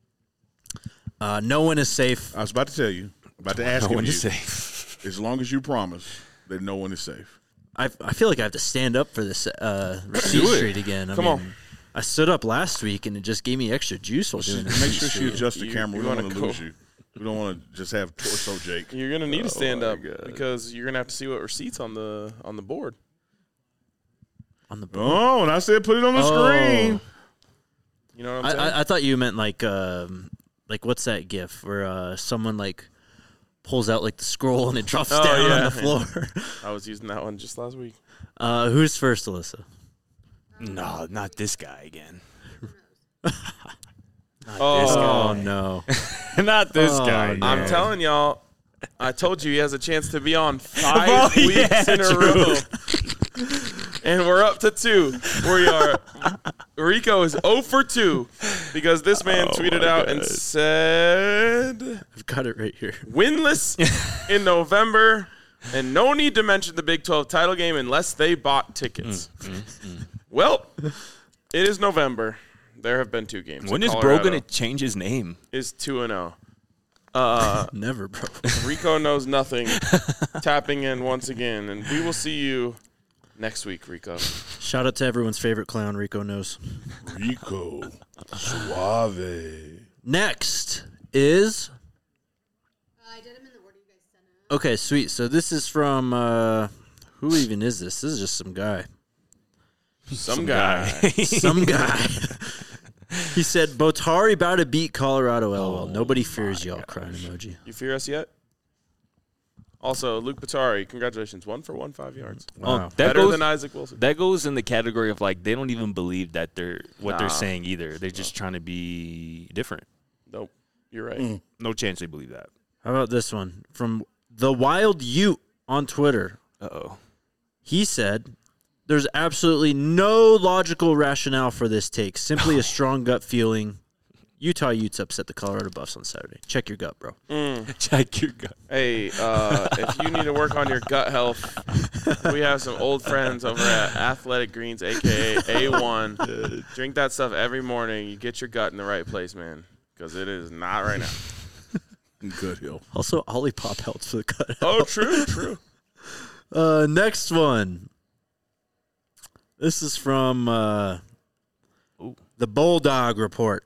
No one is safe. I was about to tell you. About to ask No one you. is safe. As long as you promise that no one is safe. I feel like I have to stand up for this Receipt Street again. Come on. I stood up last week, and it just gave me extra juice while doing it. Make sure she adjusts the camera. We don't wanna want to lose you. We don't want to just have torso Jake. You're going to need to stand my up God. because you're going to have to see what receipts on the board. On the board. Oh, and I said put it on the screen. You know what I'm saying? I thought you meant like what's that GIF where someone like pulls out like the scroll and it drops down on the floor. I was using that one just last week. Who's first, Alyssa? No, not this guy again. Oh no! Not this guy. no. I'm telling y'all, I told you he has a chance to be on 5 weeks in a row. And we're up to 2. Rico is 0 for 2 because this man tweeted out and said, I've got it right here. winless in November and no need to mention the Big 12 title game unless they bought tickets. Well, it is November. There have been 2 games. When is Bro Colorado going to change his name? is 2-0. Never, bro. Rico knows nothing. Tapping in once again, and we will see you next week, Rico. Shout out to everyone's favorite clown, Rico knows. Rico. Suave. Next is I did them in the order you guys sent out. okay, sweet. So this is from who even is this? This is just some guy. Some guy. Some guy. He said, Botari about to beat Colorado, LOL. Nobody fears y'all, crying emoji. You fear us yet? Also, Luke Batari, congratulations. 1 for 1, 5 yards. Wow. That Better goes, than Isaac Wilson. that goes in the category of like they don't even believe that they're Nah. they're saying either. They're just trying to be different. Nope. You're right. No chance they believe that. How about this one? From The Wild Ute on Twitter. Uh-oh. He said, there's absolutely no logical rationale for this take. Simply a strong gut feeling. Utah Utes upset the Colorado Buffs on Saturday. Check your gut, bro. Check your gut. Hey, if you need to work on your gut health, we have some old friends over at Athletic Greens, a.k.a. A1. Drink that stuff every morning. You get your gut in the right place, man, because it is not right now. Good hill. Also, Olipop helps for the gut. Oh, true. Next one. This is from the Bulldog Report.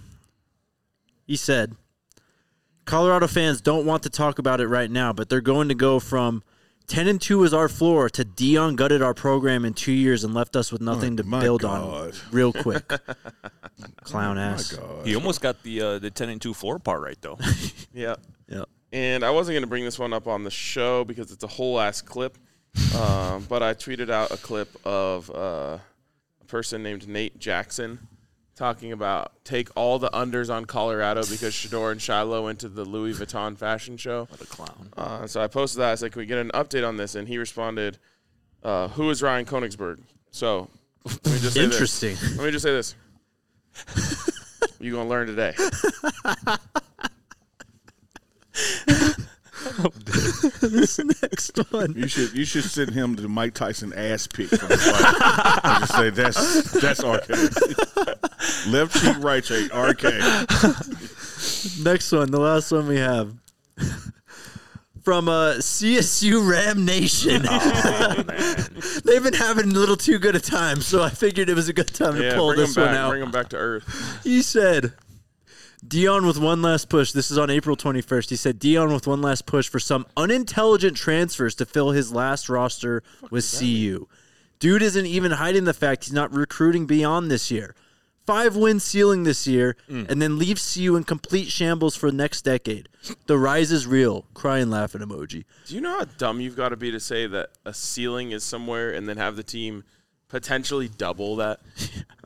He said, Colorado fans don't want to talk about it right now, but they're going to go from 10-2 is our floor to Dion gutted our program in 2 years and left us with nothing to my build God. on real quick. Clown ass. He almost got the 10-2 floor part right though. Yeah. Yep. And I wasn't going to bring this one up on the show because it's a whole ass clip. But I tweeted out a clip of a person named Nate Jackson talking about take all the unders on Colorado because Shador and Shiloh went to the Louis Vuitton fashion show. What a clown. So I posted that. I said, can we get an update on this? And he responded, who is Ryan Koenigsberg? So let me just say Interesting. this. Let me just say this. You're going to learn today. This next one. You should send him the Mike Tyson ass pic from the fight. And just say that's RK. Left cheek, right cheek, RK. Next one, the last one we have. From CSU Ram Nation. Oh, man. They've been having a little too good a time, so I figured it was a good time to pull bring this him one back. out. Bring him back to earth. He said, Dion with one last push. This is on April 21st. He said, Dion with one last push for some unintelligent transfers to fill his last roster with CU. Dude isn't even hiding the fact he's not recruiting beyond this year. 5-win ceiling this year, and then leaves CU in complete shambles for the next decade. The rise is real. Crying, laughing emoji. Do you know how dumb you've got to be to say that a ceiling is somewhere and then have the team potentially double that?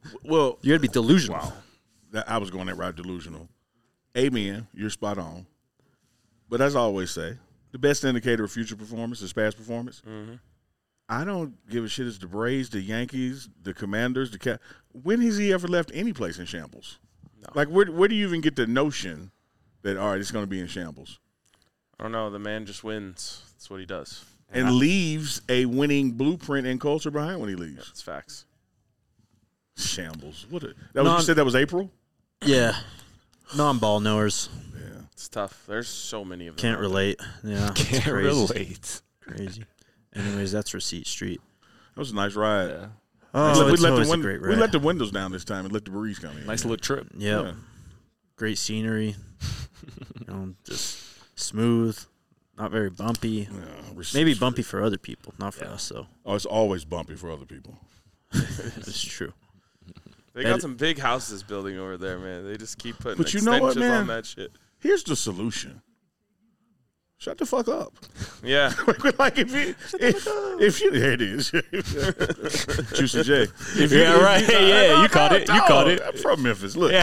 Well, You got to be delusional. wow. I was going that route, delusional. Amen. You're spot on. But as I always say, the best indicator of future performance is past performance. Mm-hmm. I don't give a shit. It's the Braves, the Yankees, the Commanders, the Cat. When has he ever left any place in shambles? No. Like, where do you even get the notion that, all right, it's going to be in shambles? I don't know. The man just wins. That's what he does. And leaves a winning blueprint and culture behind when he leaves. That's facts. Shambles. You said that was April? Yeah. Non-ball knowers. Yeah. It's tough. There's so many of them. Can't out there. relate. Yeah. it's Can't crazy. relate. Crazy. Anyways, that's Receipt Street. That was a nice ride. Yeah. Oh, it's always a we great ride. let the windows down this time and let the breeze come in. Nice little trip. Yep. Yeah. Great scenery. Just smooth. Not very bumpy. Yeah, Maybe bumpy for other people, not for us, though. Oh, it's always bumpy for other people. That's true. They got some big houses building over there, man. They just keep putting But you extensions know what, man? on that shit. Here's the solution. Shut the fuck up. Yeah. Like if you there it is. Juicy J. You caught it. You caught it. I'm from Memphis. Look,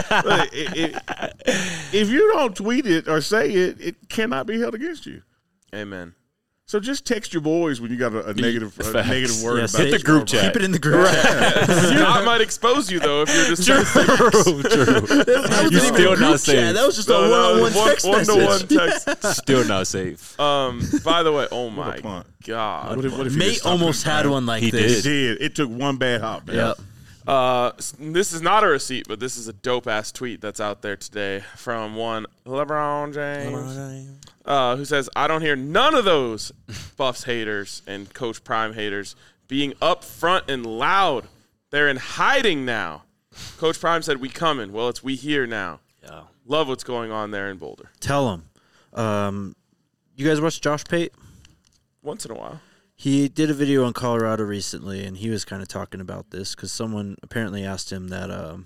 if you don't tweet it or say it, it cannot be held against you. Amen. So just text your boys when you got a negative word Yeah, about say- the group chat. Keep it in the group chat. Scott might expose you, though, if you're just True. You still not safe. That was just a one-on-one text message. one-to-one text. Still not safe. By the way, oh What my a punt. God. What if you just Mate stopped almost it, had man? one like He this. It did. It took one bad hop, man. Yep. This is not a receipt, but this is a dope-ass tweet that's out there today from one LeBron James. Who says, I don't hear none of those Buffs haters and Coach Prime haters being up front and loud. They're in hiding now. Coach Prime said, we coming. Well, it's we here now. Yeah. Love what's going on there in Boulder. Tell him. You guys watch Josh Pate? Once in a while. He did a video on Colorado recently, and he was kind of talking about this because someone apparently asked him that,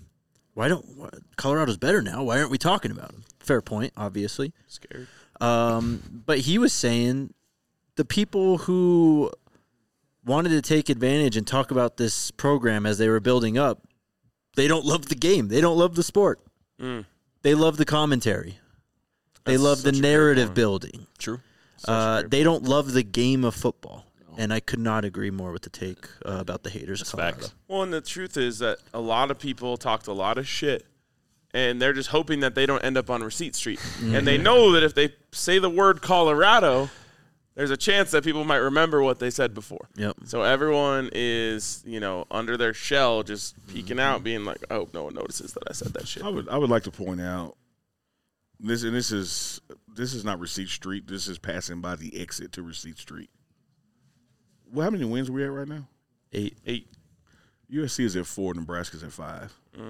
Colorado's better now. Why aren't we talking about him? Fair point, obviously. Scared. But he was saying the people who wanted to take advantage and talk about this program as they were building up, they don't love the game. They don't love the sport. They love the commentary. They That's love the such a great narrative point. building. True. They don't love the game of football. And I could not agree more with the take about the haters of Colorado. Facts. Well, and the truth is that a lot of people talked a lot of shit, and they're just hoping that they don't end up on Receipt Street. And they know that if they say the word Colorado, there's a chance that people might remember what they said before. Yep. So everyone is, under their shell, just peeking out, being like, I hope no one notices that I said that shit. I would like to point out this is not Receipt Street. This is passing by the exit to Receipt Street. Well, how many wins are we at right now? 8. USC is at 4, Nebraska's at 5.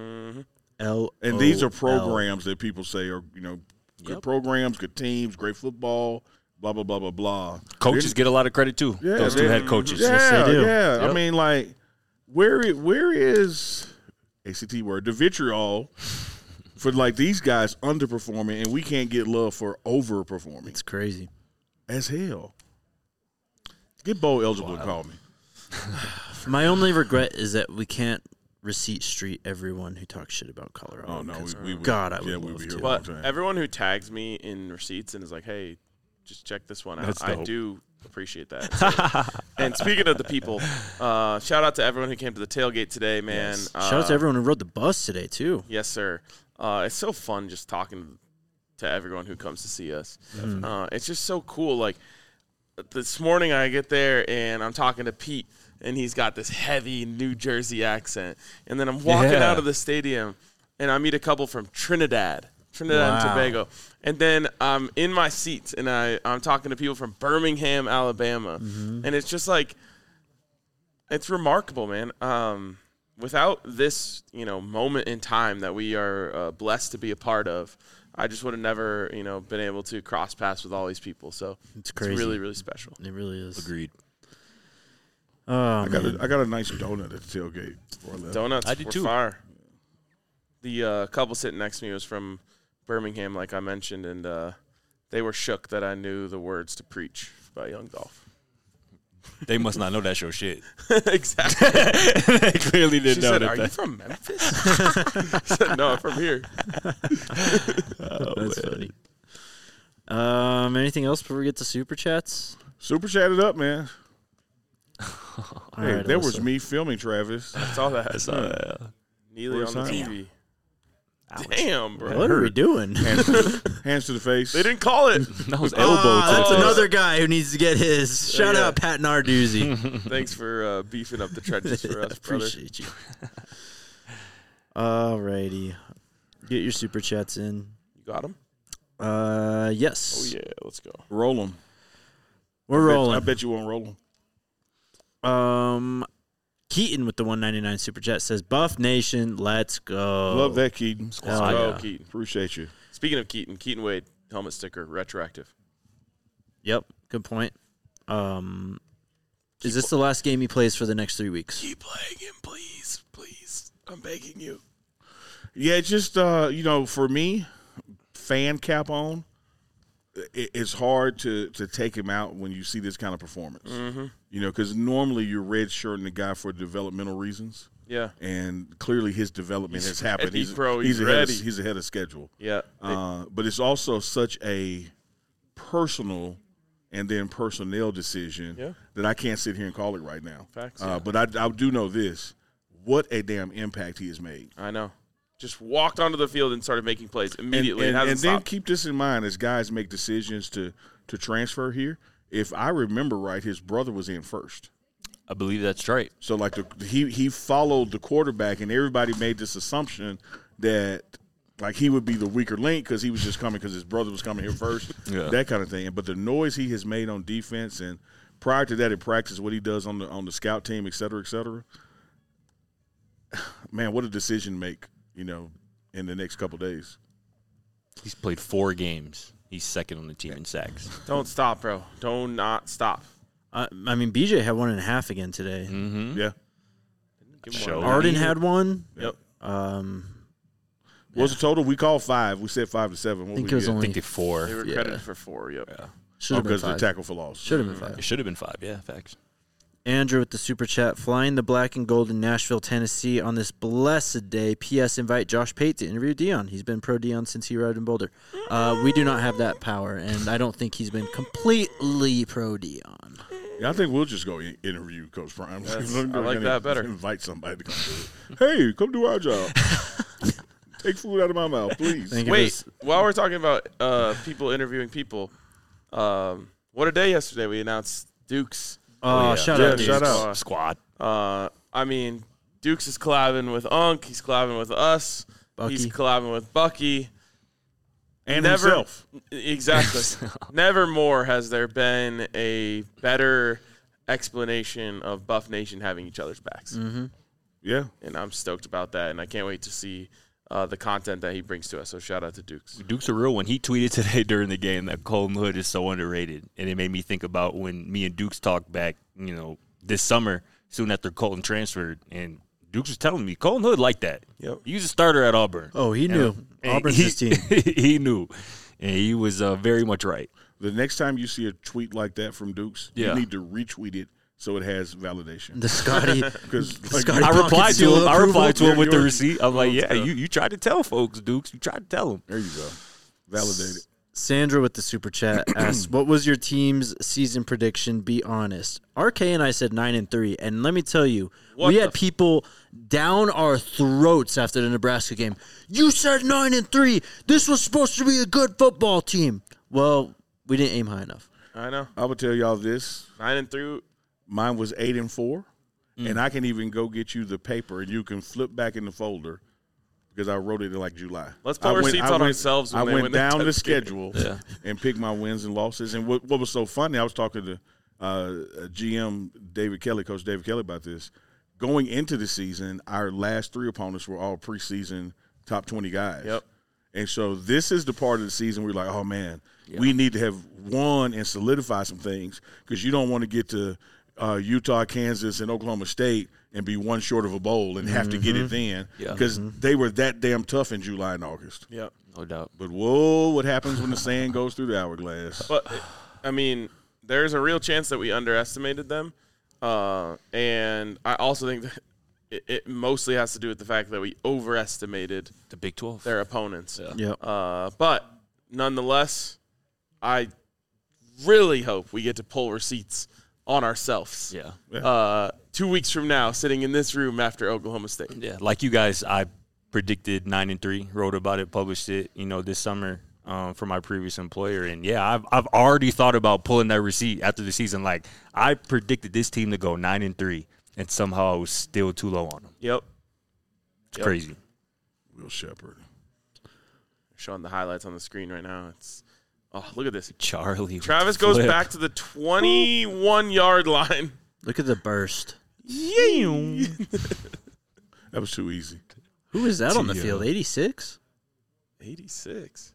L. And these are programs that people say are, good programs, good teams, great football, blah, blah, blah, blah, blah. Coaches get a lot of credit too. Yeah, Those two head coaches. Yeah, they do. yeah. Yep. I mean, like, where is ACT word, the vitriol for, like, these guys underperforming and we can't get love for overperforming? It's crazy. As hell. Get bowl eligible to call me. My only regret is that we can't Receipt Street everyone who talks shit about Colorado. Oh, no. 'cause We would. God, I would yeah, love we'd be to. here all the But time. everyone who tags me in receipts and is like, hey, just check this one out. That's I dope. do appreciate that. So- and speaking of the people, shout out to everyone who came to the tailgate today, man. Shout out to everyone who rode the bus today, too. Yes, sir. It's so fun just talking to everyone who comes to see us. It's just so cool. Like, this morning I get there and I'm talking to Pete, and he's got this heavy New Jersey accent. And then I'm walking Yeah. out of the stadium, and I meet a couple from Trinidad and Wow. Tobago. And then I'm in my seats, and I'm talking to people from Birmingham, Alabama. And it's just like, it's remarkable, man. Without this, moment in time that we are blessed to be a part of, I just would have never, been able to cross paths with all these people. So It's crazy. It's really, really special. It really is. Agreed. I got a nice donut at the tailgate before I left. Donuts I did were too. fire. The couple sitting next to me was from Birmingham, like I mentioned, and they were shook that I knew the words to Preach by Young Dolph. They must not know that show shit. Exactly. They clearly didn't She know said, that. "Are you from Memphis?" I said, "No, I'm from here." That's funny. Anything else before we get to super chats? Super chat it up, man. All Hey, right, that was Alyssa. me filming Travis. I saw that. Uh, Neely on the Where's TV. Damn, bro. What are we doing? Hands to the face. They didn't call it. that was elbow to That's the face. another guy who needs to get his. Shout Yeah. out Pat Narduzzi. Thanks for beefing up the trenches for us, brother. Appreciate you. Alrighty. Get your super chats in. You got him? Yes. Oh, yeah. Let's go. Roll them. We're I rolling. bet you won't roll them. Keaton with the 199 super chat says, Buff Nation, let's go. Love that, Keaton. Hell Let's go, yeah. Keaton. Appreciate you. Speaking of Keaton Wade, helmet sticker, retroactive. Yep. Good point. Is this the last game he plays for the next 3 weeks? Keep playing him, please. Please. I'm begging you. Yeah, it's just, for me, fan cap on, it's hard to take him out when you see this kind of performance. Mm-hmm. Because normally you're red-shirting the guy for developmental reasons. Yeah. And clearly his development has happened. ready, bro. He's ahead ready. He's ahead of schedule. Yeah. But it's also such a personal and then personnel decision that I can't sit here and call it right now. Facts. But I do know this. What a damn impact he has made. I know. Just walked onto the field and started making plays immediately. And It hasn't then stopped. keep this in mind as guys make decisions to transfer here. If I remember right, his brother was in first. I believe that's right. So, like, he followed the quarterback, and everybody made this assumption that, like, he would be the weaker link because he was just coming because his brother was coming here first, that kind of thing. But the noise he has made on defense, and prior to that in practice, what he does on the scout team, et cetera, man, what a decision to make, in the next couple of days. He's played 4 games. He's second on the team in sacks. Don't stop, bro. Don't not stop. I mean, BJ had 1.5 again today. Mm-hmm. Yeah. Give him Show. one. Arden had one. Yep. What was the total? We called 5. We said 5 to 7. What I think we it was get? I only think it's 4. They were credited for 4. Yep. should have been because of the 5. tackle for loss. Should have been 5. It should have been 5. Yeah, facts. Andrew with the super chat, flying the black and gold in Nashville, Tennessee on this blessed day. P.S. Invite Josh Pate to interview Dion. He's been pro Dion since he arrived in Boulder. We do not have that power, and I don't think he's been completely pro Dion. Yeah, I think we'll just go interview Coach Prime. Yes, We're I gonna like that better. Invite somebody to come do it. Hey, come do our job. Take food out of my mouth, please. Thank you. Wait, while we're talking about people interviewing people, what a day yesterday. We announced Dukes. Oh, yeah. shout Yeah, out, dude. shout out. Squad. I mean, Dukes is collabing with Unk. He's collabing with us. Bucky. He's collabing with Bucky. And Never- himself. Exactly. Never more has there been a better explanation of Buff Nation having each other's backs. Mm-hmm. Yeah. And I'm stoked about that, and I can't wait to see the content that he brings to us. So shout out to Dukes. Duke's a real one. He tweeted today during the game that Colton Hood is so underrated. And it made me think about when me and Dukes talked back, this summer, soon after Colton transferred. And Dukes was telling me, Colton Hood liked that. Yep. He was a starter at Auburn. Oh, he knew. And Auburn's he, his team. He knew. And he was very much right. The next time you see a tweet like that from Dukes, Yeah. you need to retweet it so it has validation. The Scotty. Because Scotty I replied Pumpkin seal to him. I approval. replied to him with the Yours- receipt. I'm like, yours, yeah, yeah. you tried to tell folks, Dukes. You tried to tell them. there you go. Validated. Sandra with the super chat asks, "What was your team's season prediction? Be honest." RK and I said 9-3, and let me tell you, What we the had people down our throats after the Nebraska game. You said 9-3. This was supposed to be a good football team. Well, we didn't aim high enough. I know. I would tell y'all this. 9-3. Mine was 8-4, and I can even go get you the paper, and you can flip back in the folder because I wrote it in like July. Let's put receipts on ourselves when I they went win the down the test game. schedule and picked my wins and losses. And what was so funny, I was talking to GM David Kelly, Coach David Kelly, about this. Going into the season, our last 3 opponents were all preseason top 20 guys. Yep. And so this is the part of the season where we're like, oh, man, we need to have won and solidify some things because you don't want to get to Utah, Kansas, and Oklahoma State and be one short of a bowl and have to get it then because they were that damn tough in July and August. Yep. No doubt. But, whoa, what happens when the sand goes through the hourglass? But, I mean, there's a real chance that we underestimated them. And I also think that it mostly has to do with the fact that we overestimated The Big 12. their opponents. Yeah. Yep. But nonetheless, I really hope we get to pull receipts on ourselves. Yeah. 2 weeks from now, sitting in this room after Oklahoma State. Yeah. Like you guys, I predicted 9-3, wrote about it, published it, this summer for my previous employer. And yeah, I've already thought about pulling that receipt after the season. Like, I predicted this team to go 9-3, and somehow I was still too low on them. Yep. It's crazy. Will Shepherd. Showing the highlights on the screen right now. Look at this. Charlie. Travis goes back to the 21-yard line. Look at the burst. That was too easy. Who is that on the field? 86? 86.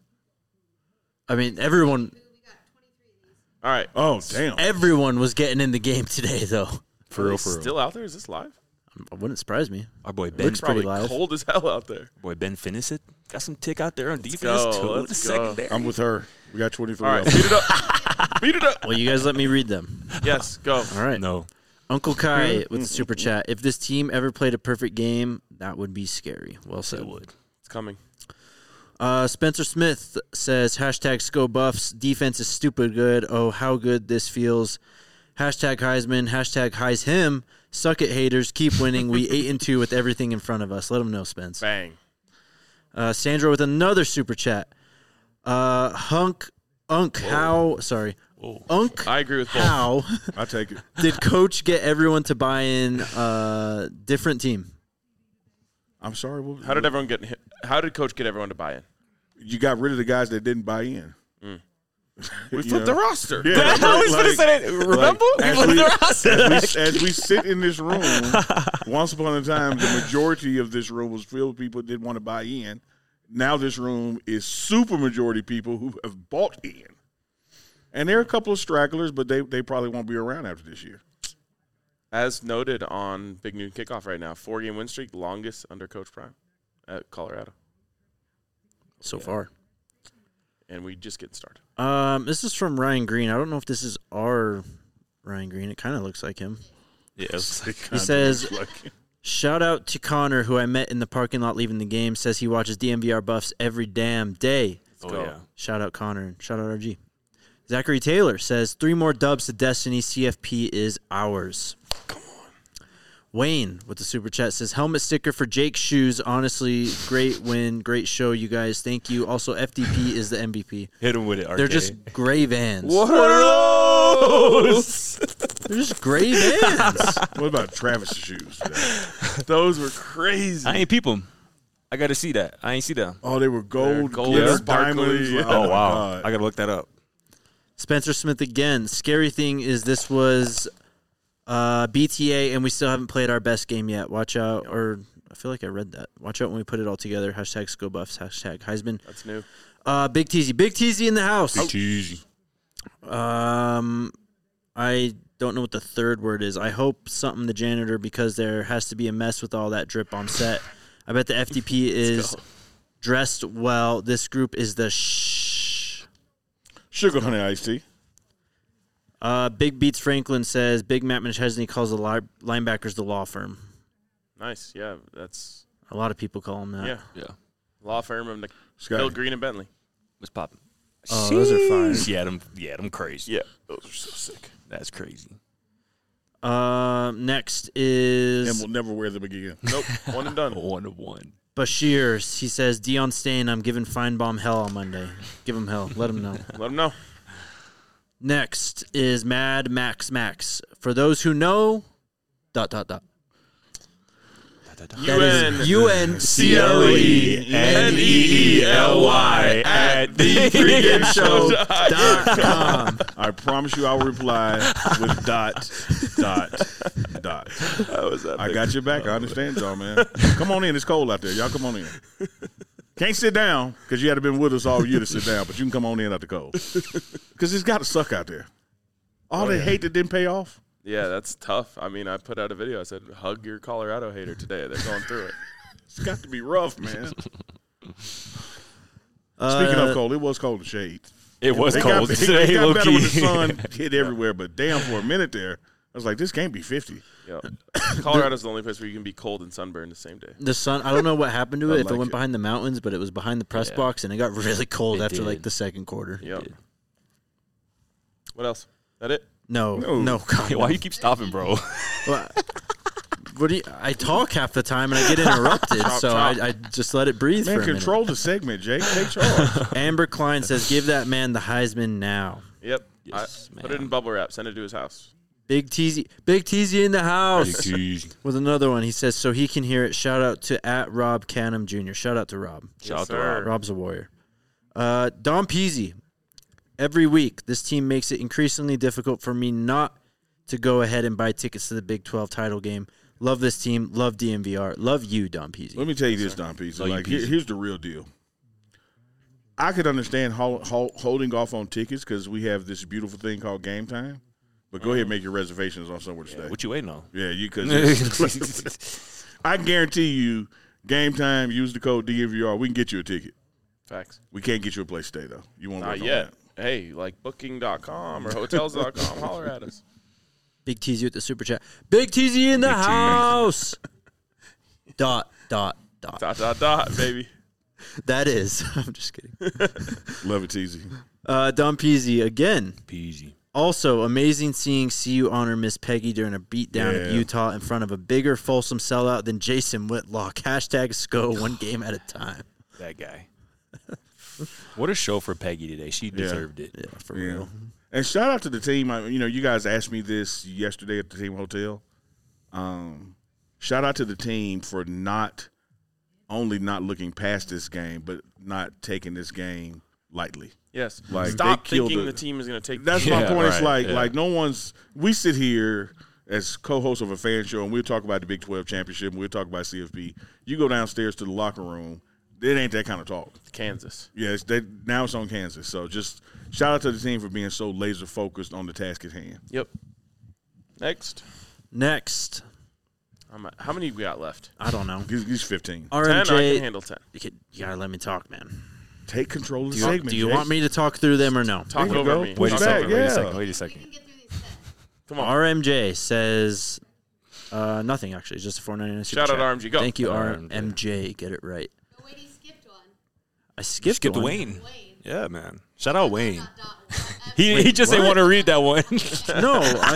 I mean, everyone All right. Oh, damn. everyone was getting in the game today, though. For real, Still out there? Is this live? It wouldn't surprise me. Our boy Ben. Looks pretty Probably live. cold as hell out there. Boy Ben Finnisett got some tick out there on defense go, too. let's The go. secondary. I'm with her. We got 23 All right. of Beat them. it up. Beat it up. Well, you guys let me read them. Yes, go. All right. No. Uncle Kai with the super chat. If this team ever played a perfect game, that would be scary. Well said. It would. It's coming. Spencer Smith says, #ScoBuffs. Defense is stupid good. Oh, how good this feels. #Heisman. #Heis him. Suck it, haters. Keep winning. We 8-2 with everything in front of us. Let them know, Spence. Bang. Sandra with another super chat. Unk, how? Sorry. Unk, I agree with both. how I take it. did Coach get everyone to buy in different team? I'm sorry. How did Coach get everyone to buy in? You got rid of the guys that didn't buy in. We flipped the roster. Yeah, I was going to say that. Remember? as we sit in this room, once upon a time, the majority of this room was filled with people that didn't want to buy in. Now this room is super majority people who have bought in. And there are a couple of stragglers, but they probably won't be around after this year. As noted on Big Noon Kickoff right now, 4-game win streak, longest under Coach Prime at Colorado. So far. And we just getting started. This is from Ryan Green. I don't know if this is our Ryan Green. It kind of looks like him. Yes. He says, shout out to Connor, who I met in the parking lot leaving the game. Says he watches DMVR Buffs every damn day. Oh, yeah. Shout out Connor and shout out RG. Zachary Taylor says 3 more dubs to Destiny. CFP is ours. Come on. Wayne with the super chat says helmet sticker for Jake's shoes. Honestly, great win, great show, you guys. Thank you. Also, FDP is the MVP. Hit him with it, RK. They're just gray Vans. What are those? They're just gray Vans. What about Travis' shoes today? Those were crazy. I ain't peep them. I got to see that. I ain't see that. Oh, they were gold, gold, glitter, sparkly. diamonds. Like, Oh, my wow. God. I got to look that up. Spencer Smith again. Scary thing is this was BTA, and we still haven't played our best game yet. Watch out, or I feel like I read that. Watch out when we put it all together. #ScoBuffs. #Heisman. That's new. Big Teasy in the house. It's easy. I don't know what the third word is. I hope something the janitor, because there has to be a mess with all that drip on set. I bet the FDP is dressed well. This group is the Sugar Honey Iced Tea. Big Beats Franklin says Big Matt McChesney calls the linebackers the law firm. Nice. Yeah, that's A lot of people call them that. yeah. Yeah. Law firm of Scott. Bill Green and Bentley. What's popping? Oh, those are fire. Yeah, them crazy. Yeah, those are so sick. That's crazy. Next is And we'll never wear them again. Nope, one and done. 1 of 1. Bashir. He says, Deion Stain, I'm giving Feinbaum hell on Monday. Give him hell. Let him know. Let them know. Next is Mad Max. For those who know, ... That is UNCLENEELY at thepregame.com. I promise you I will reply with ... How was that? I got your back. I understand y'all, man. Come on in. It's cold out there. Y'all come on in. Can't sit down because you had to been with us all year to sit down, but you can come on in out the cold. Because it's got to suck out there. All that hate that didn't pay off. Yeah, that's tough. I mean, I put out a video. I said, hug your Colorado hater today. They're going through it. It's got to be rough, man. Speaking of cold, it was cold in shade. It was It cold got today, low better when the key. sun hit everywhere, but damn, for a minute there, I was like, this can't be 50. Yep. Colorado's the only place where you can be cold and sunburned the same day. The sun, I don't know what happened to it, if it like went it. behind the mountains, but it was behind the press Yeah. box, and it got really cold It after like did. the second quarter. Yep. What else? That it? No, No. God. Why you keep stopping, bro? Well, what do you, I talk half the time and I get interrupted, Chop, so chop. I just let it breathe Man, for a control the segment, Jake. Take charge. minute. Amber Klein says, "Give that man the Heisman now." Yep. Yes, Put it in bubble wrap. Send it to his house. Big Teasy in the house with another one. He says, so he can hear it. Shout out to @Rob Canham Jr. Shout out to Rob. Shout out to sir. Rob. Rob's a warrior. Dom Peasy. Every week, this team makes it increasingly difficult for me not to go ahead and buy tickets to the Big 12 title game. Love this team. Love DMVR. Love you, Dom Peasy. Let me tell you this, Don Peasy. Love you, Like, Peasy. here's the real deal. I could understand holding off on tickets because we have this beautiful thing called Game Time. But go ahead and make your reservations on somewhere to stay. What you waiting on? Yeah, you because I guarantee you, Game Time. Use the code DMVR. We can get you a ticket. Facts. We can't get you a place to stay though. You won't Not work on yet. that. Hey, like booking.com or hotels.com. Holler at us. Big Teasy with the super chat. Big Teasy in the Big Teasy. house. Dot. Baby. That is. I'm just kidding. Love it, easy. Dom Peasy again. Peasy. Also, amazing seeing CU honor Miss Peggy during a beatdown of Yeah. Utah in front of a bigger Folsom sellout than Jason Whitlock. Hashtag SCO, one game at a time. That guy. What a show for Peggy today. She deserved it. Yeah, for Yeah. real. And shout out to the team. You guys asked me this yesterday at the team hotel. Shout out to the team for not only not looking past this game, but not taking this game lightly. Yes. Like, Stop they killed thinking the- the team is going to take. That's my Yeah, point. It's right, like no one's. We sit here as co-hosts of a fan show, and we'll talk about the Big 12 championship, and we'll talk about CFP. You go downstairs to the locker room, it ain't that kind of talk. Kansas. Yeah, now it's on Kansas. So just shout out to the team for being so laser focused on the task at hand. Yep. Next. Next. How many we got left? I don't know. He's 15. 10? I can RMJ, handle 10. you gotta let me talk, man. Take control of the Do segment. you Jake. want me to talk through them or no? Talk There you over go. me. Push Talk back, over me. yeah. Wait a We second. can get through these 10. Come on. RMJ says nothing, actually. Just a $4.99 super Shout out chat. RMG. Go. Thank you, RMJ. RMJ. Get it right. Oh, wait, he skipped one. I skipped Skipped one. Wayne. Wayne. Yeah, man. Shout out Wayne. Dot, dot, dot. He just didn't what? want to read that one. No,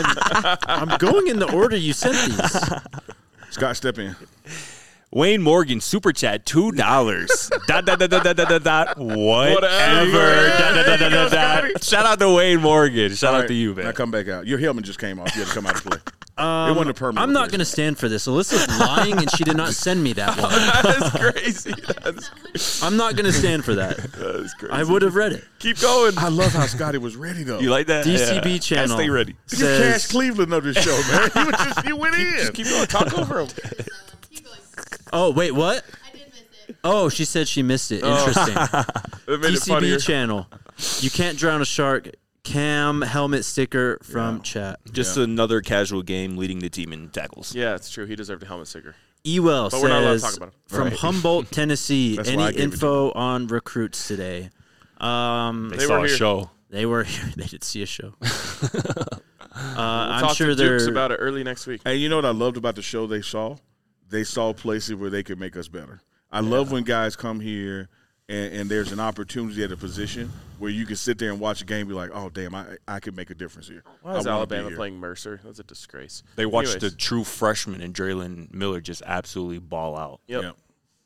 I'm going in the order you sent these. Scott, step in. Wayne Morgan, super chat, $2. dot, dot, dot, dot, dot, dot, dot, whatever. Whatever. Dot, dot, dot, dot, dot, dot. Shout out to Wayne Morgan. Shout All out right, to you, Now man. come back out. Your helmet just came off. You had to come out to play. It wasn't a permanent. I'm not replacement. going to stand for this. Alyssa's lying, and she did not send me that one. That's crazy. That's I'm not going to stand for that. crazy. I would have read it. Keep going. I love how Scotty was ready though. You like that? DCB Yeah. channel. Gotta stay ready. Look at Cash Says, Cleveland of this show, man. You went in. Keep going. Talk over him. Keep going. oh, wait, what? I did miss it. Oh, she said she missed it. Interesting. It made it funnier. DCB channel. You can't drown a shark. Cam helmet sticker from chat. Just another casual game leading the team in tackles. Yeah, it's true. He deserved a helmet sticker. Ewell But we're not allowed to says talk about him. from Humboldt, Tennessee. That's why Any I gave it to info on recruits today? They They saw were a here. show. They were here. They did see a show. We'll I'm talk sure to Dukes they're about it early next week. And you know what I loved about the show they saw? They saw places where they could make us better. I love when guys come here and there's an opportunity at a position where you can sit there and watch a game and be like, oh, damn, I could make a difference here. Why is I wanna be Alabama here. playing Mercer? That's a disgrace. They watched Anyways. the true freshman and Draylen Miller just absolutely ball out. Yep. Yeah.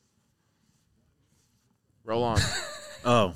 Roll on. Oh.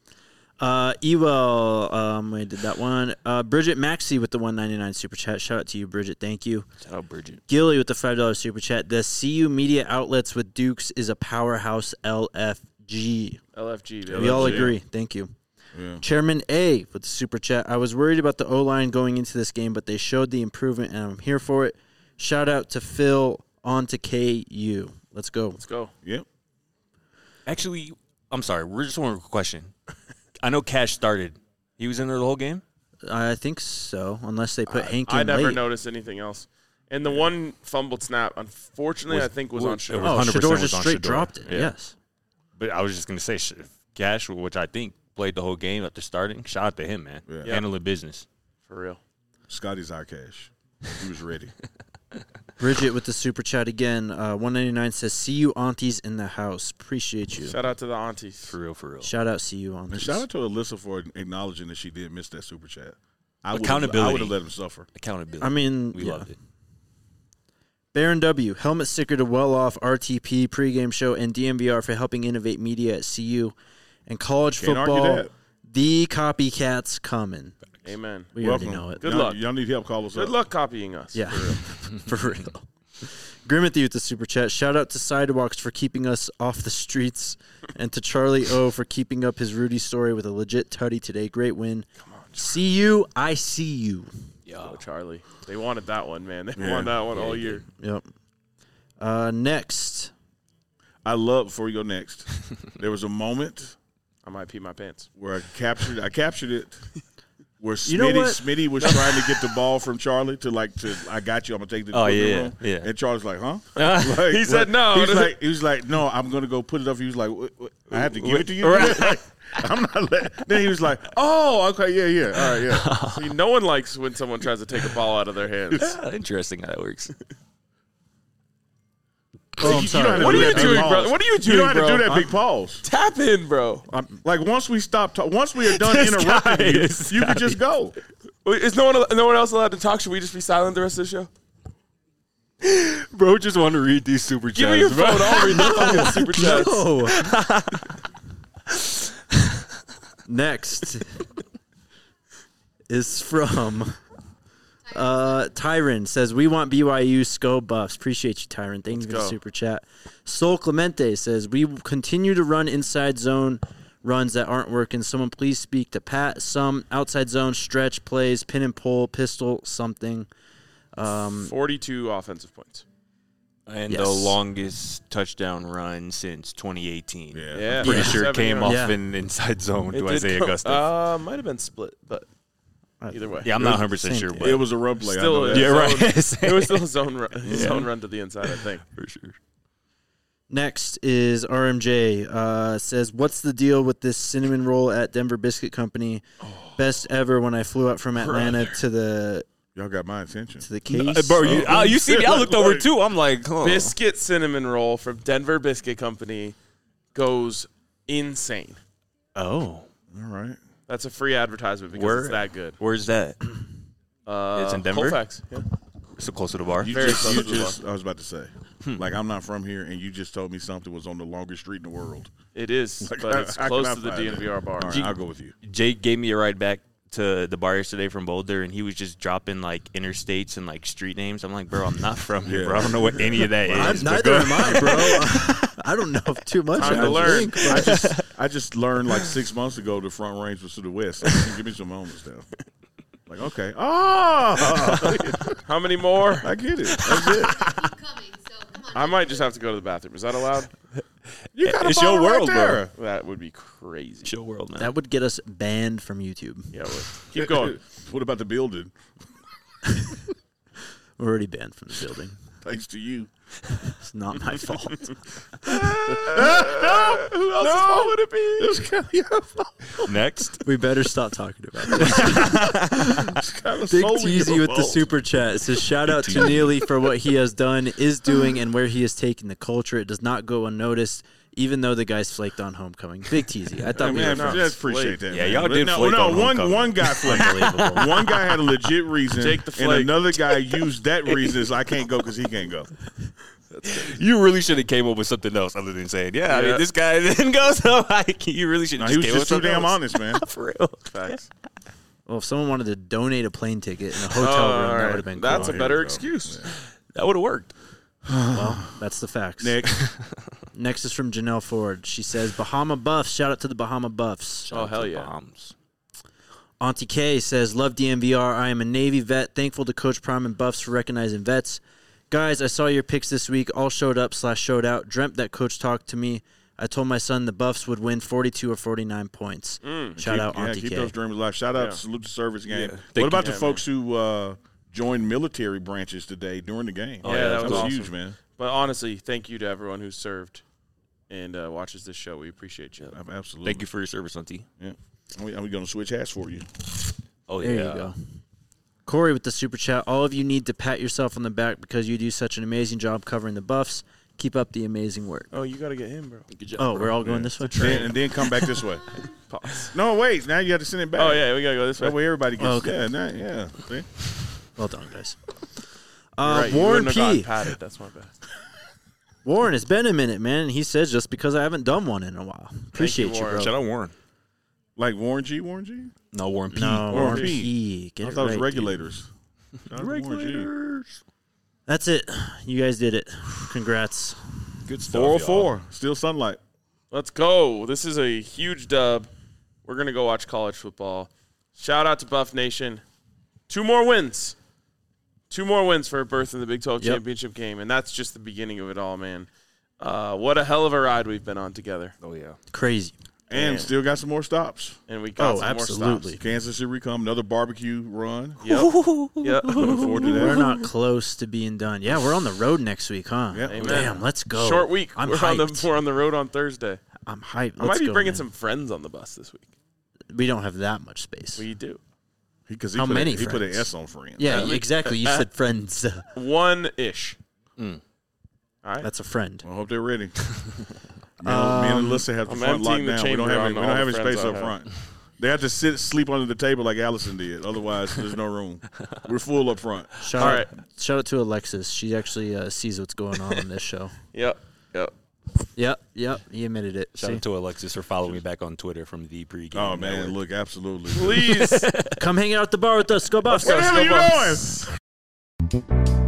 Ewell, I did that one. Bridget Maxey with the $1.99 super chat. Shout out to you, Bridget. Thank you. Shout out Bridget. Gilly with the $5 super chat. The CU media outlets with Dukes is a powerhouse LFG. LFG, baby. We all LFG. agree. Thank you. Yeah. Chairman A with the super chat. I was worried about the O-line going into this game, but they showed the improvement, and I'm here for it. Shout out to Phil on to KU. Let's go. Let's go. Yep. Actually, I'm sorry. We're just one question. I know Cash started. He was in there the whole game? I think so, unless they put Hank in I never late. noticed anything else. And the one fumbled snap, unfortunately, I think was on it Shore. was Oh, 100% Shador was just on straight Shador. dropped it. Yeah. Yes. But I was just going to say Cash, which I think played the whole game after starting. Shout out to him, man. Yeah. Handling business. For real. Scotty's our cash. He was ready. Bridget with the super chat again. 199 says, "See you aunties in the house. Appreciate you." Shout out to the aunties. For real, for real. Shout out, see you And aunties. shout out to Alyssa for acknowledging that she did miss that super chat. I would Accountability. have let him suffer. Accountability. I mean, we yeah. loved it. Baron W. Helmet sticker to well off RTP pregame show and DMVR for helping innovate media at CU and college Can't argue football. that. The copycats coming. Amen. We Welcome. already know it. Good Y'all- luck. Y'all need help, call us Good up. luck copying us. Yeah, for real. Grimothy with the super chat. Shout out to Sidewalks for keeping us off the streets, and to Charlie O for keeping up his Rudy story with a legit tutty today. Great win. See you. I see you. Oh, Charlie. They wanted that one, man. They Yeah. wanted that one Yeah, all they year. Yep. Next. I love, before you go next, there was a moment I might pee my pants. where I captured it where You know what? Smitty was trying to get the ball from Charlie to I got you, I'm gonna take the Oh, equipment yeah, room. yeah. And Charlie's like, huh? He said no. He was like, no, I'm gonna go put it up. He was like, what? I have to give it to you. Right. Like, I'm not. Then he was like, oh, okay, yeah, all right, yeah. See, no one likes when someone tries to take a ball out of their hands. Interesting how that works. Oh, I'm You sorry. don't have to What do are you that big doing, pause. bro? What are you You doing, don't have bro? to do that big pause. Tap in, bro. Like once we are done This interrupting guy you, is you can just go. Wait, is no one else allowed to talk? Should we just be silent the rest of the show? Bro, just want to read these super chats. Give me your bro. phone. I'll read the fucking super chats. No. Next is from Tyron. Says, "We want BYU SCO buffs." Appreciate you, Tyron. Thank you for the go. super chat. Sol Clemente says, "We continue to run inside zone runs that aren't working. Someone please speak to Pat. Some outside zone stretch plays, pin and pull, pistol, something." 42 offensive points. And Yes. the longest touchdown run since 2018. Yeah. Pretty Yeah. sure it 7 came yards. off Yeah. an inside zone It to did Isaiah come- Augusta. Might have been split, but either way. Yeah, I'm not 100% same sure, thing. but It was a run play. I Still know is. that. yeah, right. It was still a zone run to the inside, I think. for sure. Next is RMJ. Says, "What's the deal with this cinnamon roll at Denver Biscuit Company? Best ever when I flew up from Atlanta to the Y'all got my attention. case." Bro, you see me? I looked over too. I'm like, oh. Biscuit cinnamon roll from Denver Biscuit Company goes insane. Oh, All right. That's a free advertisement because Where- it's that good. where's that? It's in Denver? Colfax. Yeah. So close to the bar. You Very just, close you to the just I was about to say, like I'm not from here, and you just told me something was on the longest street in the world. It is, Like, but it's how close can I to the find it? DNVR bar. All right, I'll go with you. Jake gave me a ride back to the bar yesterday from Boulder, and he was just dropping like interstates and like street names. I'm like, bro, I'm not from here, Yeah. bro. I don't know what any of that is. but Neither go- am I, bro. I don't know too much. Time to I learn. think. I just learned like 6 months ago the Front Range was to the west. So give me some moments now. Like okay, How many more? I get it. That's it. Keep coming, so come on. I might just have to go to the bathroom. Is that allowed? You got a It's your ball right world, bro. there. That would be crazy. Show world, man. That would get us banned from YouTube. Yeah, keep going. What about the building? We're already banned from the building. Thanks to you. It's not my fault. Who else's fault would it be? It's kind of your fault. Next, We better stop talking about it. It's kind of Big solely Teasy your with the fault. super chat. It says, "Shout out to Neely for what he has done, is doing, and where he is taking the culture. It does not go unnoticed, even though the guys flaked on homecoming." Big Teasy. I thought we Man, were I friends. just appreciate that. Yeah, man. y'all But did no, flake no, on one homecoming. guy flaked. One guy had a legit reason, Jake the and Flake. another guy used that reason as I can't go because he can't go. you really should have came up with something else other than saying, "Yeah, I Yeah. mean, this guy didn't go." So like, you really should No, have he was came up just with too something damn else. honest, man. For real. Facts. Well, if someone wanted to donate a plane ticket in a hotel Oh, room, all that right. would have been That's cool. a better we go. excuse. That would have worked. Well, that's the facts. Nick, Next is from Janelle Ford. She says, "Bahama Buffs." Shout out to the Bahama Buffs. Oh, hell yeah. Bombs. Auntie K says, "Love DMVR. I am a Navy vet. Thankful to Coach Prime and Buffs for recognizing vets. Guys, I saw your picks this week. All showed up / showed out. Dreamt that Coach talked to me. I told my son the Buffs would win 42 or 49 points. Shout out Auntie keep K. those dreams alive. Shout out Yeah. to Salute the Service game. Thank What about you. the folks who joined military branches today during the game? Yeah, that was awesome. huge, man. But honestly, thank you to everyone who served. and watches this show. We appreciate you. Absolutely. Thank you for your service, Auntie. Yeah. Are we going to switch hats for you? Oh, There yeah. you go. Corey with the super chat. All of you need to pat yourself on the back because you do such an amazing job covering the Buffs. Keep up the amazing work. Oh, you got to get him, bro. Good job, Oh, bro. we're all going this way? And then come back this way. Pause. No, wait. Now you have to send it back. Oh, yeah, we got to go this way. That way everybody gets Okay. Yeah. See? Well done, guys. You're right, you Warren wouldn't have gotten P. patted. That's my bad. Warren, it's been a minute, man. And he says just because I haven't done one in a while. Appreciate you, Warren. bro. Shout out Warren. Like Warren G? No, Warren P. No, Warren Warren P. P. Get I it thought it was right, regulators. Shout out to Warren G. That's it. You guys did it. Congrats. Good stuff. 404. Still sunlight. Let's go. This is a huge dub. We're going to go watch college football. Shout out to Buff Nation. 2 more wins. 2 more wins for a berth in the Big 12 championship game, and that's just the beginning of it all, man. What a hell of a ride we've been on together. Oh, yeah. Crazy. And Man. still got some more stops. And we got Oh, some absolutely. more stops. Kansas City come. Another barbecue run. Yep. Yep. Looking forward to We're that. not close to being done. Yeah, we're on the road next week, huh? Yep. Amen. Damn, let's go. Short week. I'm we're hyped. on the road on Thursday. I'm hyped. I might Let's be go, bringing man. some friends on the bus this week. We don't have that much space. We do. Because How many he put an friends? S on friends. Yeah, exactly. You said friends. 1-ish. All right. That's a friend. I hope they're ready. Me and Alyssa have the I'm front locked emptying the down. We don't chamber have on any, we all don't have the any friends space I up have. front. They have to sleep under the table like Allison did. Otherwise, there's no room. We're full up front. Shout out to Alexis. She actually sees what's going on this show. Yep. Yep. He admitted it. Shout See? out to Alexis for following me back on Twitter from the pregame. Oh, man. network. Look, absolutely. Please. Come hang out at the bar with us. Go Buffs. Where the hell are you going?